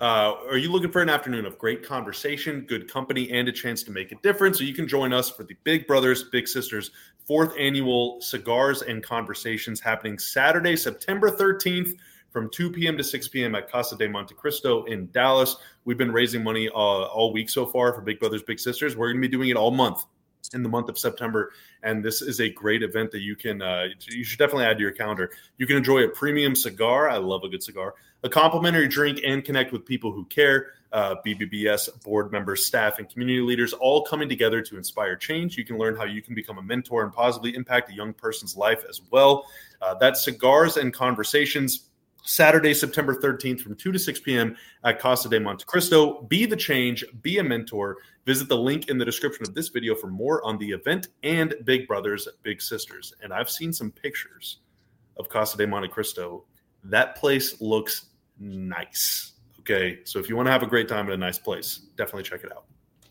Uh, are you looking for an afternoon of great conversation, good company, and a chance to make a difference? So you can join us for the Big Brothers Big Sisters fourth annual Cigars and Conversations happening Saturday, September thirteenth from two p.m. to six p.m. at Casa de Monte Cristo in Dallas. We've been raising money uh, all week so far for Big Brothers Big Sisters. We're going to be doing it all month in the month of September, and this is a great event that you can uh, you should definitely add to your calendar. You can enjoy a premium cigar. I love a good cigar. A complimentary drink and connect with people who care. Uh, B B B S board members, staff, and community leaders all coming together to inspire change. You can learn how you can become a mentor and positively impact a young person's life as well. Uh, that's Cigars and Conversations, Saturday, September thirteenth from two to six p.m. at Casa de Monte Cristo. Be the change, be a mentor. Visit the link in the description of this video for more on the event and Big Brothers Big Sisters. And I've seen some pictures of Casa de Monte Cristo. That place looks nice. Okay, so if you want to have a great time at a nice place, definitely check it out.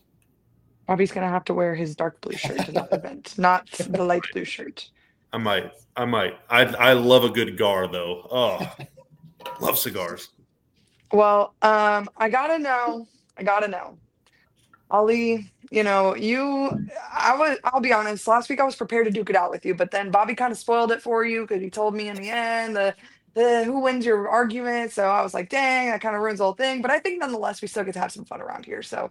Bobby's going to have to wear his dark blue shirt to that event, not the light blue shirt. I might. I might. I I love a good gar, though. Oh, love cigars. Well, um, I got to know. I got to know. Ali, you know, you, I was, I'll be honest, last week I was prepared to duke it out with you, but then Bobby kind of spoiled it for you because he told me in the end the, the who wins your argument. So I was like, dang, that kind of ruins the whole thing. But I think nonetheless, we still get to have some fun around here. So,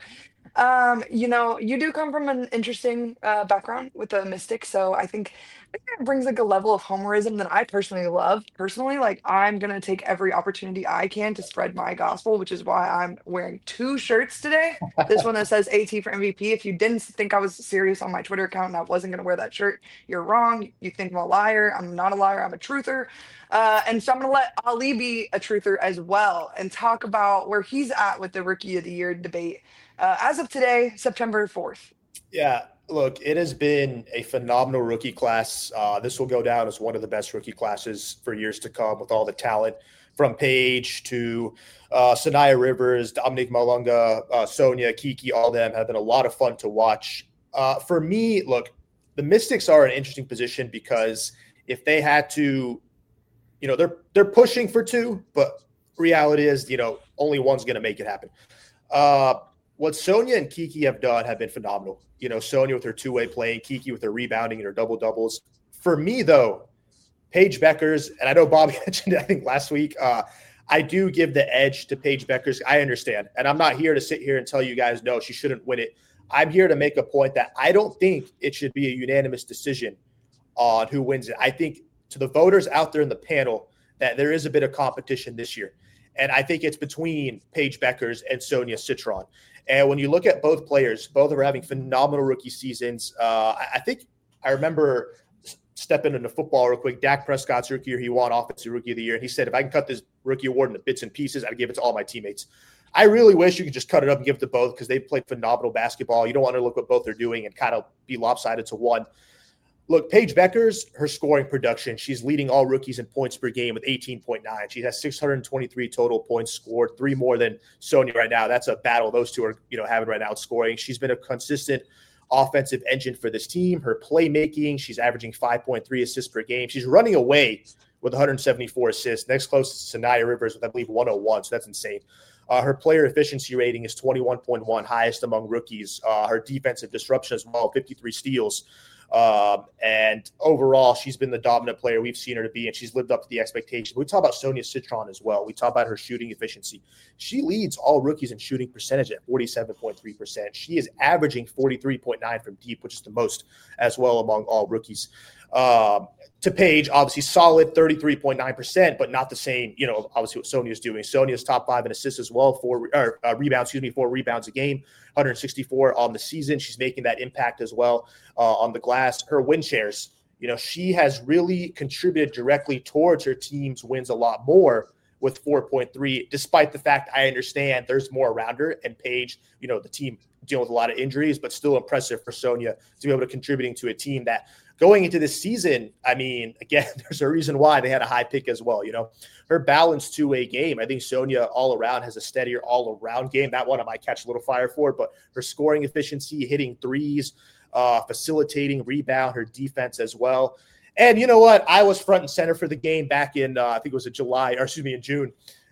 um, you know, you do come from an interesting uh, background with the Mystics. So I think I think that brings like a level of homerism that I personally love. Personally, like I'm gonna take every opportunity I can to spread my gospel, which is why I'm wearing two shirts today. This one that says A T for M V P. If you didn't think I was serious on my Twitter account and I wasn't gonna wear that shirt, you're wrong. You think I'm a liar. I'm not a liar. I'm a truther. Uh, and so I'm gonna let Ali be a truther as well and talk about where he's at with the Rookie of the Year debate. Uh, as of today, September fourth. Yeah, look, it has been a phenomenal rookie class. Uh, this will go down as one of the best rookie classes for years to come with all the talent from Paige to uh, Sanaya Rivers, Dominique Malunga, uh, Sonia, Kiki, all of them have been a lot of fun to watch. Uh, for me, look, the Mystics are in an interesting position because if they had to, you know, they're they're pushing for two, but reality is, you know, only one's going to make it happen. Uh, What Sonia and Kiki have done have been phenomenal. You know, Sonia with her two-way playing, Kiki with her rebounding and her double-doubles. For me, though, Paige Bueckers, and I know Bobby mentioned it, I think, last week, uh, I do give the edge to Paige Bueckers. I understand. And I'm not here to sit here and tell you guys, no, she shouldn't win it. I'm here to make a point that I don't think it should be a unanimous decision on who wins it. I think to the voters out there in the panel that there is a bit of competition this year. And I think it's between Paige Bueckers and Sonia Citron. And when you look at both players, both are having phenomenal rookie seasons. Uh, I think I remember stepping into football real quick. Dak Prescott's rookie year, he won Offensive Rookie of the Year. And he said, if I can cut this rookie award into bits and pieces, I'd give it to all my teammates. I really wish you could just cut it up and give it to both because they played phenomenal basketball. You don't want to look what both are doing and kind of be lopsided to one. Look, Paige Bueckers, her scoring production, she's leading all rookies in points per game with eighteen point nine. She has six hundred twenty-three total points scored, three more than Sonia right now. That's a battle those two are, you know, having right now scoring. She's been a consistent offensive engine for this team. Her playmaking, she's averaging five point three assists per game. She's running away with one hundred seventy-four assists. Next closest to Sanaya Rivers with, I believe, one oh one, so that's insane. Uh, her player efficiency rating is twenty-one point one, highest among rookies. Uh, her defensive disruption as well, fifty-three steals. Um, and overall, she's been the dominant player we've seen her to be, and she's lived up to the expectations. We talk about Sonia Citron as well. We talk about her shooting efficiency. She leads all rookies in shooting percentage at forty-seven point three percent. She is averaging forty-three point nine from deep, which is the most as well among all rookies. Um, to Paige, obviously solid thirty-three point nine percent, but not the same, you know, obviously what Sonia's doing. Sonia's top five in assists as well, four or, uh, rebounds, excuse me, four rebounds a game, one hundred sixty-four on the season. She's making that impact as well uh, on the glass. Her win shares, you know, she has really contributed directly towards her team's wins a lot more with four point three, despite the fact I understand there's more around her and Paige, you know, the team dealing with a lot of injuries, but still impressive for Sonia to be able to contributing to a team that going into this season, I mean, again, there's a reason why they had a high pick as well. You know, her balanced two-way game. I think Sonia all around has a steadier all-around game. That one I might catch a little fire for, but her scoring efficiency, hitting threes, uh, facilitating, rebound, her defense as well. And you know what? I was front and center for the game back in, uh, I think it was in July, or excuse me, in June.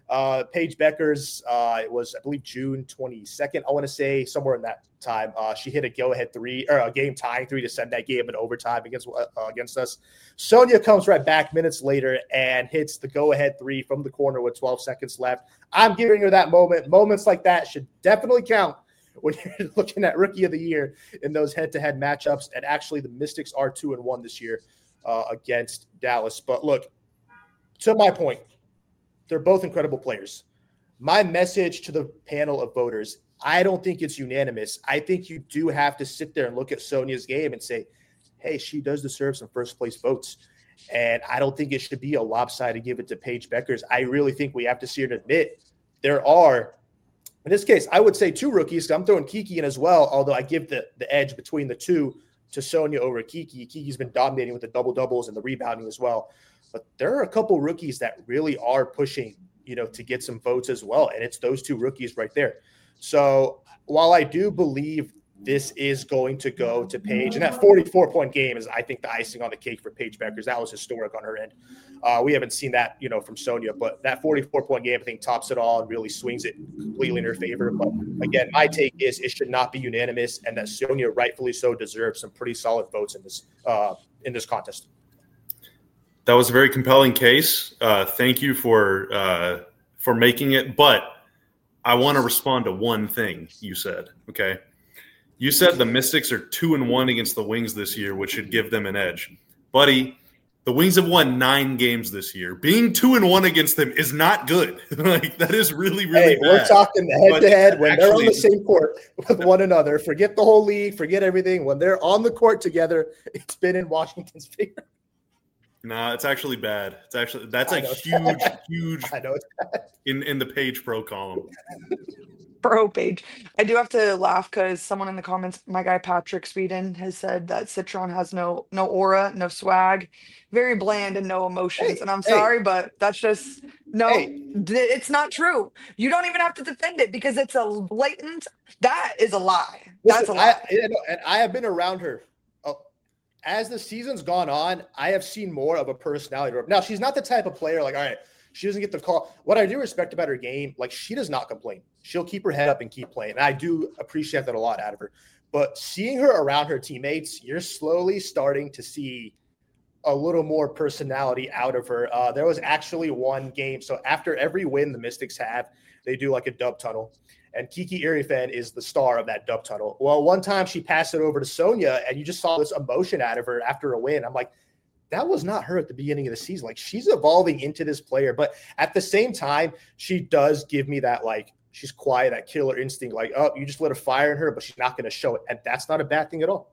Uh, Paige Beckers, uh, it was, I believe, June twenty-second, I want to say, somewhere in that time. Uh, she hit a go-ahead three, or a game-tying three to send that game in overtime against uh, against us. Sonia comes right back minutes later and hits the go-ahead three from the corner with twelve seconds left. I'm giving her that moment. Moments like that should definitely count when you're looking at Rookie of the Year in those head-to-head matchups. And actually, the Mystics are two and one this year uh, against Dallas. But look, to my point, they're both incredible players. My message to the panel of voters, I don't think it's unanimous. I think you do have to sit there and look at Sonia's game and say, hey, she does deserve some first-place votes. And I don't think it should be a lopsided give it to Paige Beckers. I really think we have to see her to admit there are, in this case, I would say two rookies. I'm throwing Kiki in as well, although I give the, the edge between the two to Sonia over Kiki. Kiki's been dominating with the double-doubles and the rebounding as well. But there are a couple rookies that really are pushing, you know, to get some votes as well. And it's those two rookies right there. So while I do believe this is going to go to Paige, and that forty-four point game is, I think, the icing on the cake for Paige Beckers. That was historic on her end. Uh, we haven't seen that, you know, from Sonia, but that forty-four point game, I think, tops it all and really swings it completely in her favor. But again, my take is it should not be unanimous, and that Sonia rightfully so deserves some pretty solid votes in this uh, in this contest. That was a very compelling case. Uh, thank you for uh, for making it. But I want to respond to one thing you said. Okay, you said the Mystics are two and one against the Wings this year, which should give them an edge, buddy. The Wings have won nine games this year. Being two and one against them is not good. Like, that is really, really hey, bad. We're talking head to head when actually, they're on the same court with one another. Forget the whole league. Forget everything. When they're on the court together, it's been in Washington's favor. Nah, it's actually bad. It's actually that's a huge, bad. huge I know it's bad. in in the Page Pro column. Pro Page. I do have to laugh because someone in the comments, my guy Patrick Sweden, has said that Citron has no no aura, no swag, very bland and no emotions. Hey, and I'm hey. sorry, but that's just no. Hey. d- It's not true. You don't even have to defend it because it's a blatant. That is a lie. Listen, That's a lie. I, you know, and I have been around her. Oh, as the season's gone on, I have seen more of a personality. Now, she's not the type of player like, all right, she doesn't get the call. What I do respect about her game, like, she does not complain. She'll keep her head up and keep playing. And I do appreciate that a lot out of her. But seeing her around her teammates, you're slowly starting to see a little more personality out of her. Uh, there was actually one game. So after every win the Mystics have, they do like a dub tunnel. And Kiki Irifen is the star of that dub tunnel. Well, one time she passed it over to Sonia, and you just saw this emotion out of her after a win. I'm like, that was not her at the beginning of the season. Like, she's evolving into this player. But at the same time, she does give me that, like, she's quiet, that killer instinct. Like, oh, you just lit a fire in her, but she's not going to show it. And that's not a bad thing at all.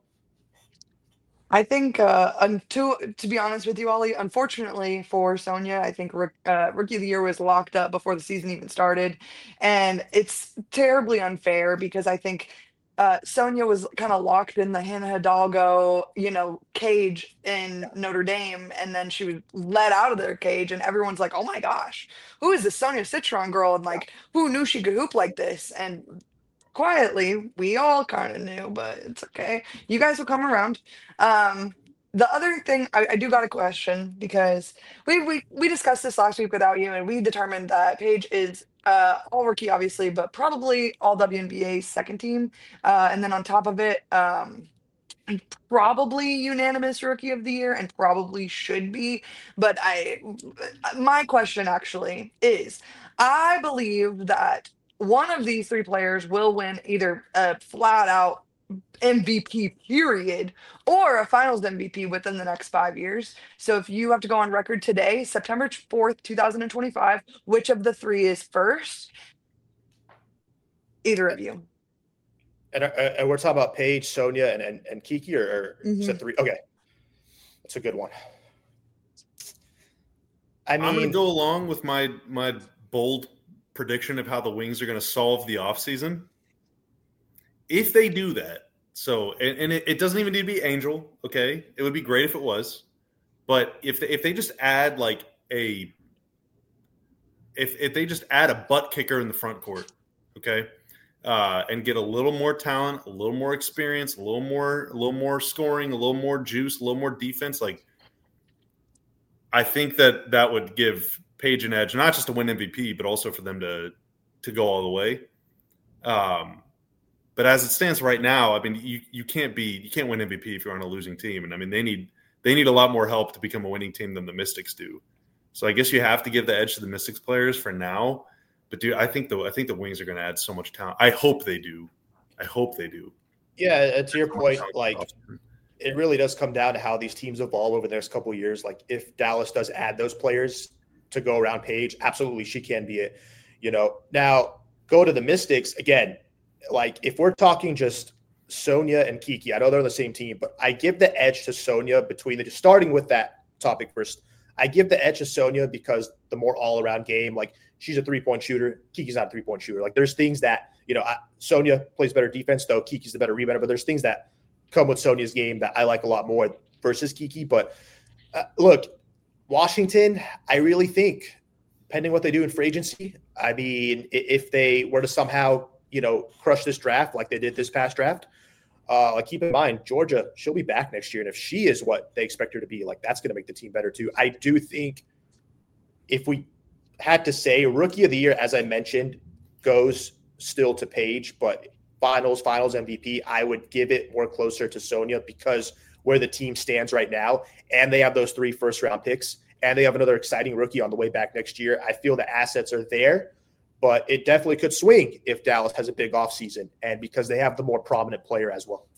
I think, uh, un- to to be honest with you, Ollie, unfortunately for Sonia, I think rook, uh, Rookie of the Year was locked up before the season even started, and it's terribly unfair because I think uh, Sonia was kind of locked in the Hannah Hidalgo, you know, cage in Notre Dame, and then she was let out of their cage, and everyone's like, "Oh my gosh, who is this Sonia Citron girl?" And like, who knew she could hoop like this? And quietly, we all kind of knew, but it's okay. You guys will come around. Um, the other thing I, I do got a question because we, we we discussed this last week without you, and we determined that Paige is uh, all rookie, obviously, but probably all W N B A second team. Uh, and then on top of it, um, probably unanimous rookie of the year, and probably should be. But I, my question actually is, I believe that one of these three players will win either a flat out M V P period or a finals M V P within the next five years. So if you have to go on record today, September fourth, twenty twenty-five, which of the three is first? Either of you. And, uh, and we're talking about Paige, Sonia, and, and, and Kiki, or, or Mhm. is it three? Okay. That's a good one. I mean, I'm going to go along with my my bold prediction of how the Wings are going to solve the offseason. If they do that, so and, and it, it doesn't even need to be Angel, okay? It would be great if it was, but if they, if they just add like a if if they just add a butt kicker in the front court, okay, uh, and get a little more talent, a little more experience, a little more a little more scoring, a little more juice, a little more defense, like I think that that would give Paige an edge, not just to win M V P, but also for them to to go all the way. Um, but as it stands right now, I mean, you you can't be you can't win M V P if you're on a losing team, and I mean they need they need a lot more help to become a winning team than the Mystics do. So I guess you have to give the edge to the Mystics players for now. But dude, I think the I think the Wings are going to add so much talent. I hope they do. I hope they do. Yeah, to your point, like it really does come down to how these teams evolve over the next couple of years. Like if Dallas does add those players to go around Paige, absolutely she can be it. You know, now go to the Mystics again. Like if we're talking just Sonya and Kiki, I know they're on the same team, but I give the edge to Sonya between the starting with that topic first. I give the edge to Sonya because the more all-around game, like she's a three-point shooter. Kiki's not a three-point shooter. Like there's things that, you know, I, Sonya plays better defense, though Kiki's the better rebounder, but there's things that come with Sonya's game that I like a lot more versus Kiki. But uh, look, Washington, I really think, depending what they do in free agency, I mean, if they were to somehow, you know, crush this draft like they did this past draft, Uh, like keep in mind, Georgia, she'll be back next year. And if she is what they expect her to be, like that's going to make the team better too. I do think if we had to say rookie of the year, as I mentioned, goes still to Paige, but finals, finals M V P, I would give it more closer to Sonya because where the team stands right now, and they have those three first round picks, and they have another exciting rookie on the way back next year. I feel the assets are there. But it definitely could swing if Dallas has a big offseason and because they have the more prominent player as well.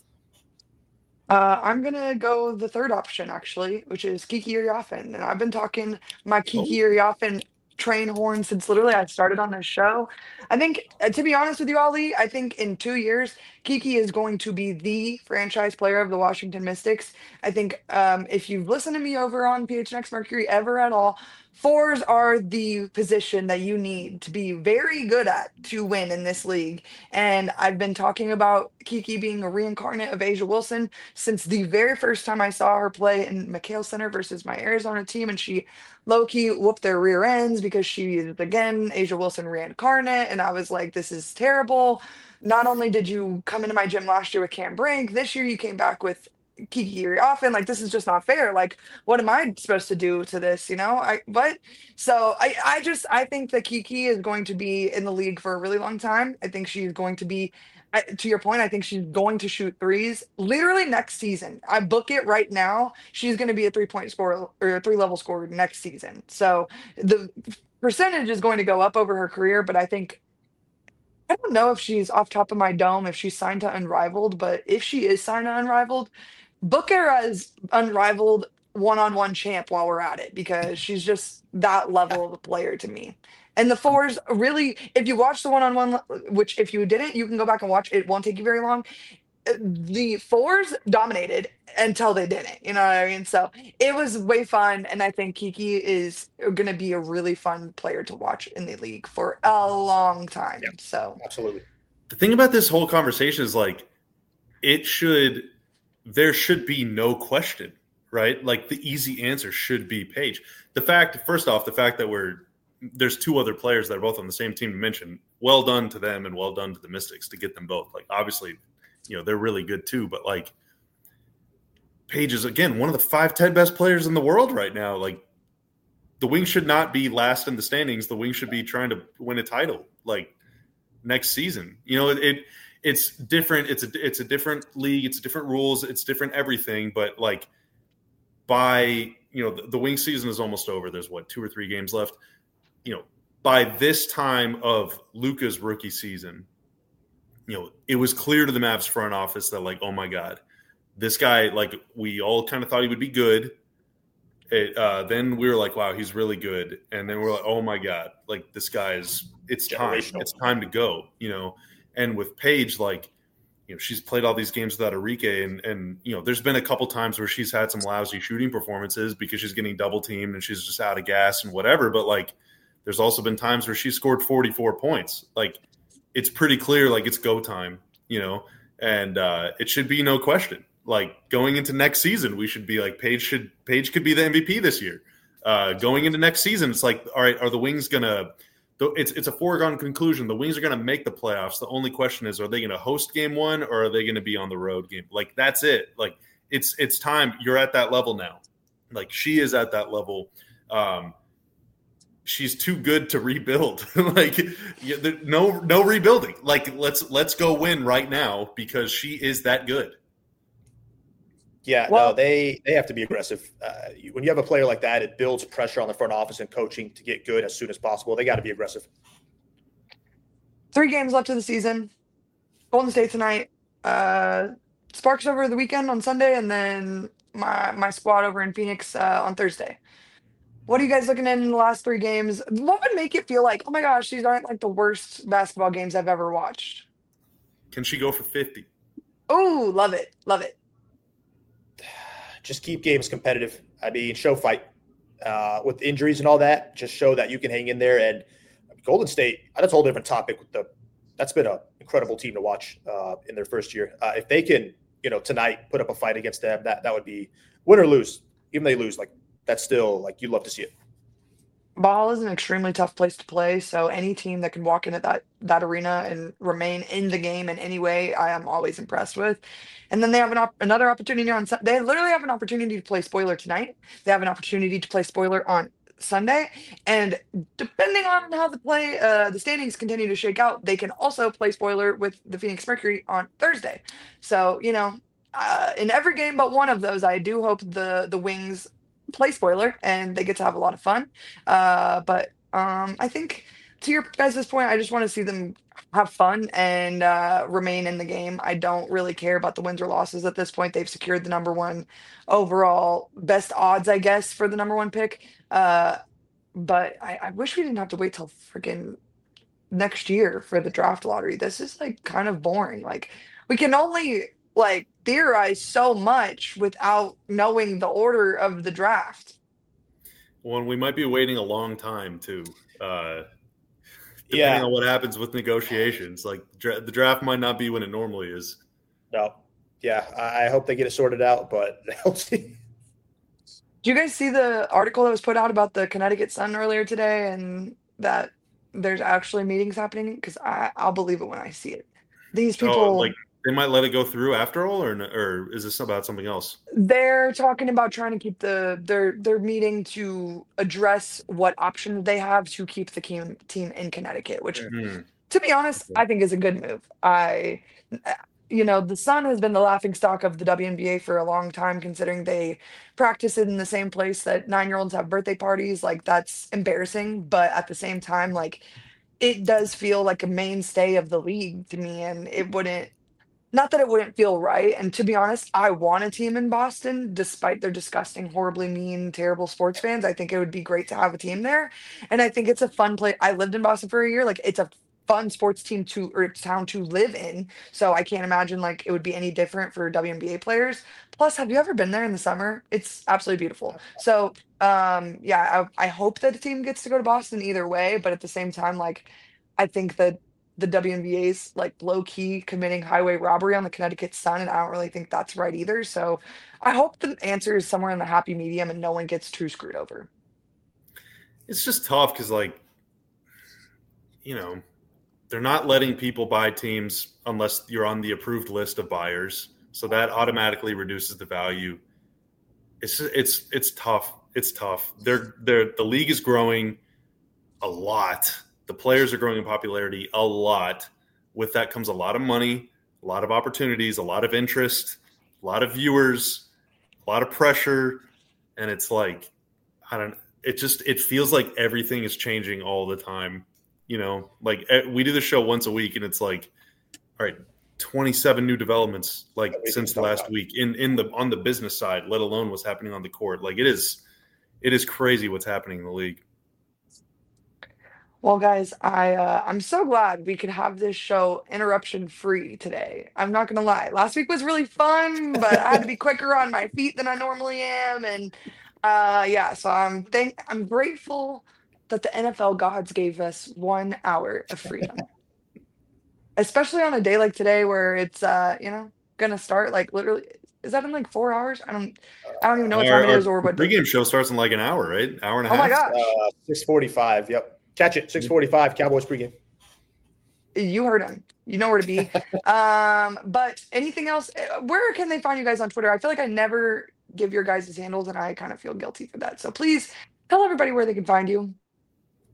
Uh, I'm going to go the third option, actually, which is Kiki Iriafen. And I've been talking my Kiki Oh. Iriafen train horn since literally I started on this show. I think, uh, to be honest with you, Ali, I think in two years, Kiki is going to be the franchise player of the Washington Mystics. I think um, if you've listened to me over on P H N X Mercury ever at all, fours are the position that you need to be very good at to win in this league. And I've been talking about Kiki being a reincarnate of Asia Wilson since the very first time I saw her play in McHale Center versus my Arizona team. And she low-key whooped their rear ends because she is, again, Asia Wilson reincarnate. And I was like, this is terrible. Not only did you come into my gym last year with Cam Brink, this year you came back with Kiki Iriafen. Like, this is just not fair. Like, what am I supposed to do to this? You know, I, but so I, I just, I think that Kiki is going to be in the league for a really long time. I think she's going to be, I, to your point, I think she's going to shoot threes literally next season. I book it right now. She's going to be a three point scorer or a three level scorer next season. So the percentage is going to go up over her career, but I think, I don't know if she's off top of my dome, if she's signed to Unrivaled, but if she is signed to Unrivaled, book her as Unrivaled one-on-one champ while we're at it because she's just that level of a player to me. And the fours really, if you watch the one-on-one, which if you didn't, you can go back and watch. It won't take you very long. The fours dominated until they didn't. You know what I mean? So it was way fun, and I think Kiki is going to be a really fun player to watch in the league for a long time. Yeah, so absolutely. The thing about this whole conversation is like, it should, there should be no question, right? Like the easy answer should be Paige. The fact, first off, the fact that we're, there's two other players that are both on the same team to mention, well done to them and well done to the Mystics to get them both. Like obviously, you know, they're really good too, but like Paige is again, one of the five, ten best players in the world right now. Like the Wings should not be last in the standings. The Wings should be trying to win a title like next season. You know, it, it it's different. It's a, it's a different league. It's different rules. It's different everything. But like by, you know, the, the Wings season is almost over. There's what, two or three games left. You know, by this time of Luka's rookie season, you know, it was clear to the Mavs front office that like, oh my God, this guy, like we all kind of thought he would be good. It, uh, then we were like, wow, he's really good. And then we're like, oh my God, like this guy is, it's time. It's time to go, you know. And with Paige, like, you know, she's played all these games without Enrique. And, and, you know, there's been a couple times where she's had some lousy shooting performances because she's getting double teamed and she's just out of gas and whatever. But like, there's also been times where she scored forty-four points. Like, it's pretty clear, like, it's go time, you know, and uh, it should be no question. Like, going into next season, we should be like, Paige should Paige could be the M V P this year. Uh, going into next season, it's like, all right, are the Wings going to – it's it's a foregone conclusion. The Wings are going to make the playoffs. The only question is, are they going to host game one or are they going to be on the road game? Like, that's it. Like, it's it's time. You're at that level now. Like, she is at that level. Um she's too good to rebuild. Like yeah, there, no no rebuilding. Like let's let's go win right now because she is that good. Yeah, Well, no, they they have to be aggressive. Uh, you- when you have a player like that, it builds pressure on the front office and coaching to get good as soon as possible. They got to be aggressive. three games left of the season. Golden State tonight. Uh, Sparks over the weekend on Sunday, and then my my squad over in Phoenix uh, on Thursday. What are you guys looking at in the last three games? What would make it feel like, oh my gosh, these aren't like the worst basketball games I've ever watched? Can she go for fifty? Oh, love it, love it. Just keep games competitive. I mean, show fight uh, with injuries and all that. Just show that you can hang in there. And Golden State, that's a whole different topic. With the that's been an incredible team to watch uh, in their first year. Uh, if they can, you know, tonight put up a fight against them, that that would be win or lose. Even they lose, like that's still like you'd love to see it. Ball is an extremely tough place to play, so any team that can walk into that that arena and remain in the game in any way, I am always impressed with. And then they have an op- another opportunity on Sun- they literally have an opportunity to play spoiler tonight. They have an opportunity to play spoiler on Sunday, and depending on how the play uh, the standings continue to shake out, they can also play spoiler with the Phoenix Mercury on Thursday. So you know, uh, in every game but one of those, I do hope the the Wings play spoiler and they get to have a lot of fun. Uh, but um, I think to your guys' point, I just want to see them have fun and uh, remain in the game. I don't really care about the wins or losses at this point. They've secured the number one overall best odds, I guess, for the number one pick. Uh, but I, I wish we didn't have to wait till freaking next year for the draft lottery. This is like kind of boring. Like we can only like theorize so much without knowing the order of the draft. Well, and we might be waiting a long time too. Uh, depending Yeah. on what happens with negotiations, like dra- the draft might not be when it normally is. No, yeah, I, I hope they get it sorted out, but we'll see. Do you guys see the article that was put out about the Connecticut Sun earlier today and that there's actually meetings happening? Because I'll believe it when I see it. These people, Oh, like they might let it go through after all, or n- or is this about something else? they're talking about trying to keep the they're they're meeting to address what options they have to keep the team team in Connecticut, which Hmm. to be honest, I think is a good move. I, you know, the Sun has been the laughing stock of the W N B A for a long time, considering they practice in the same place that nine year olds have birthday parties. Like, that's embarrassing. But at the same time, like, it does feel like a mainstay of the league to me. And it wouldn't, not that it wouldn't feel right. And to be honest, I want a team in Boston, despite their disgusting, horribly mean, terrible sports fans. I think it would be great to have a team there. And I think it's a fun place. I lived in Boston for a year. Like, it's a fun sports team to or town to live in. So I can't imagine like it would be any different for W N B A players. Plus, have you ever been there in the summer? It's absolutely beautiful. So um yeah, I, I hope that the team gets to go to Boston either way, but at the same time, like I think that the W N B A's like low key committing highway robbery on the Connecticut Sun, and I don't really think that's right either. So I hope the answer is somewhere in the happy medium and no one gets too screwed over. It's just tough because, like, you know, they're not letting people buy teams unless you're on the approved list of buyers. So that automatically reduces the value. It's it's it's tough. It's tough. They're they're the league is growing a lot. The players are growing in popularity a lot. With that comes a lot of money, a lot of opportunities, a lot of interest, a lot of viewers, a lot of pressure, and it's like I don't. It just it feels like everything is changing all the time. You know, like we do the show once a week, and it's like, all right, twenty-seven new developments like since last week in in the on the business side, let alone what's happening on the court. Like it is, it is crazy what's happening in the league. Well, guys, I uh, I'm so glad we could have this show interruption free today. I'm not gonna lie. Last week was really fun, but I had to be quicker on my feet than I normally am, and uh, yeah. So I'm thank I'm grateful that the N F L gods gave us one hour of freedom, especially on a day like today where it's uh, you know gonna start like literally. Is that in like four hours? I don't I don't even know what time Our, it is or our what. day- pregame show starts in like an hour, right? Hour and a Oh my half. gosh. Uh, six forty-five. Yep. Catch it. six forty-five. Cowboys pregame. You heard him. You know where to be. Um, but anything else? uh, Where can they find you guys on Twitter? I feel like I never give your guys' handles, and I kind of feel guilty for that. So please tell everybody where they can find you.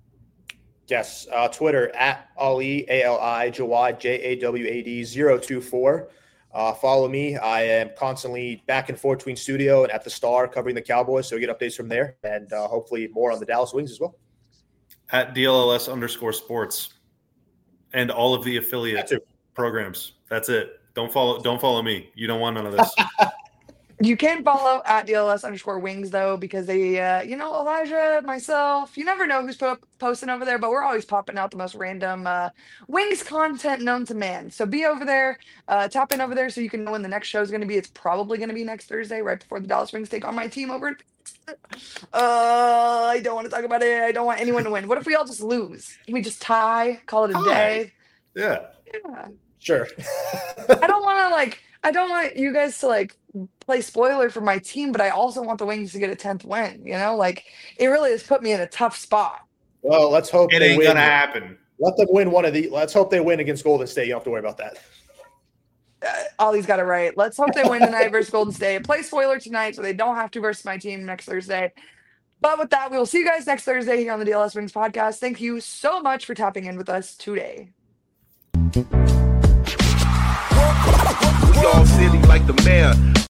Yes, uh, Twitter at Ali, A L I, Jawad, J A W A D zero two four. Uh, follow me. I am constantly back and forth between studio and at the Star covering the Cowboys, so you get updates from there, and uh, hopefully more on the Dallas Wings as well. At D L L S underscore sports and all of the affiliate programs. That's it. Don't follow. Don't follow me. You don't want none of this. You can follow at D L S underscore wings though, because they, uh, you know, Elijah, myself, you never know who's po- posting over there, but we're always popping out the most random uh, wings content known to man. So be over there, uh, tap in over there so you can know when the next show is going to be. It's probably going to be next Thursday, right before the Dallas Wings take on my team over. At- uh, I don't want to talk about it. I don't want anyone to win. What if we all just lose? Can we just tie? Call it a Tie. day? Yeah. Yeah. Sure. I don't want to like. I don't want you guys to like play spoiler for my team, but I also want the Wings to get a tenth win. You know, like it really has put me in a tough spot. Well, let's hope It they ain't win. gonna happen. Let them win one of the. Let's hope they win against Golden State. You don't have to worry about that. Uh, Ollie's got it right. Let's hope they win tonight versus Golden State. Play spoiler tonight so they don't have to versus my team next Thursday. But with that, we will see you guys next Thursday here on the D L S Wings podcast. Thank you so much for tapping in with us today. We all city like the mayor.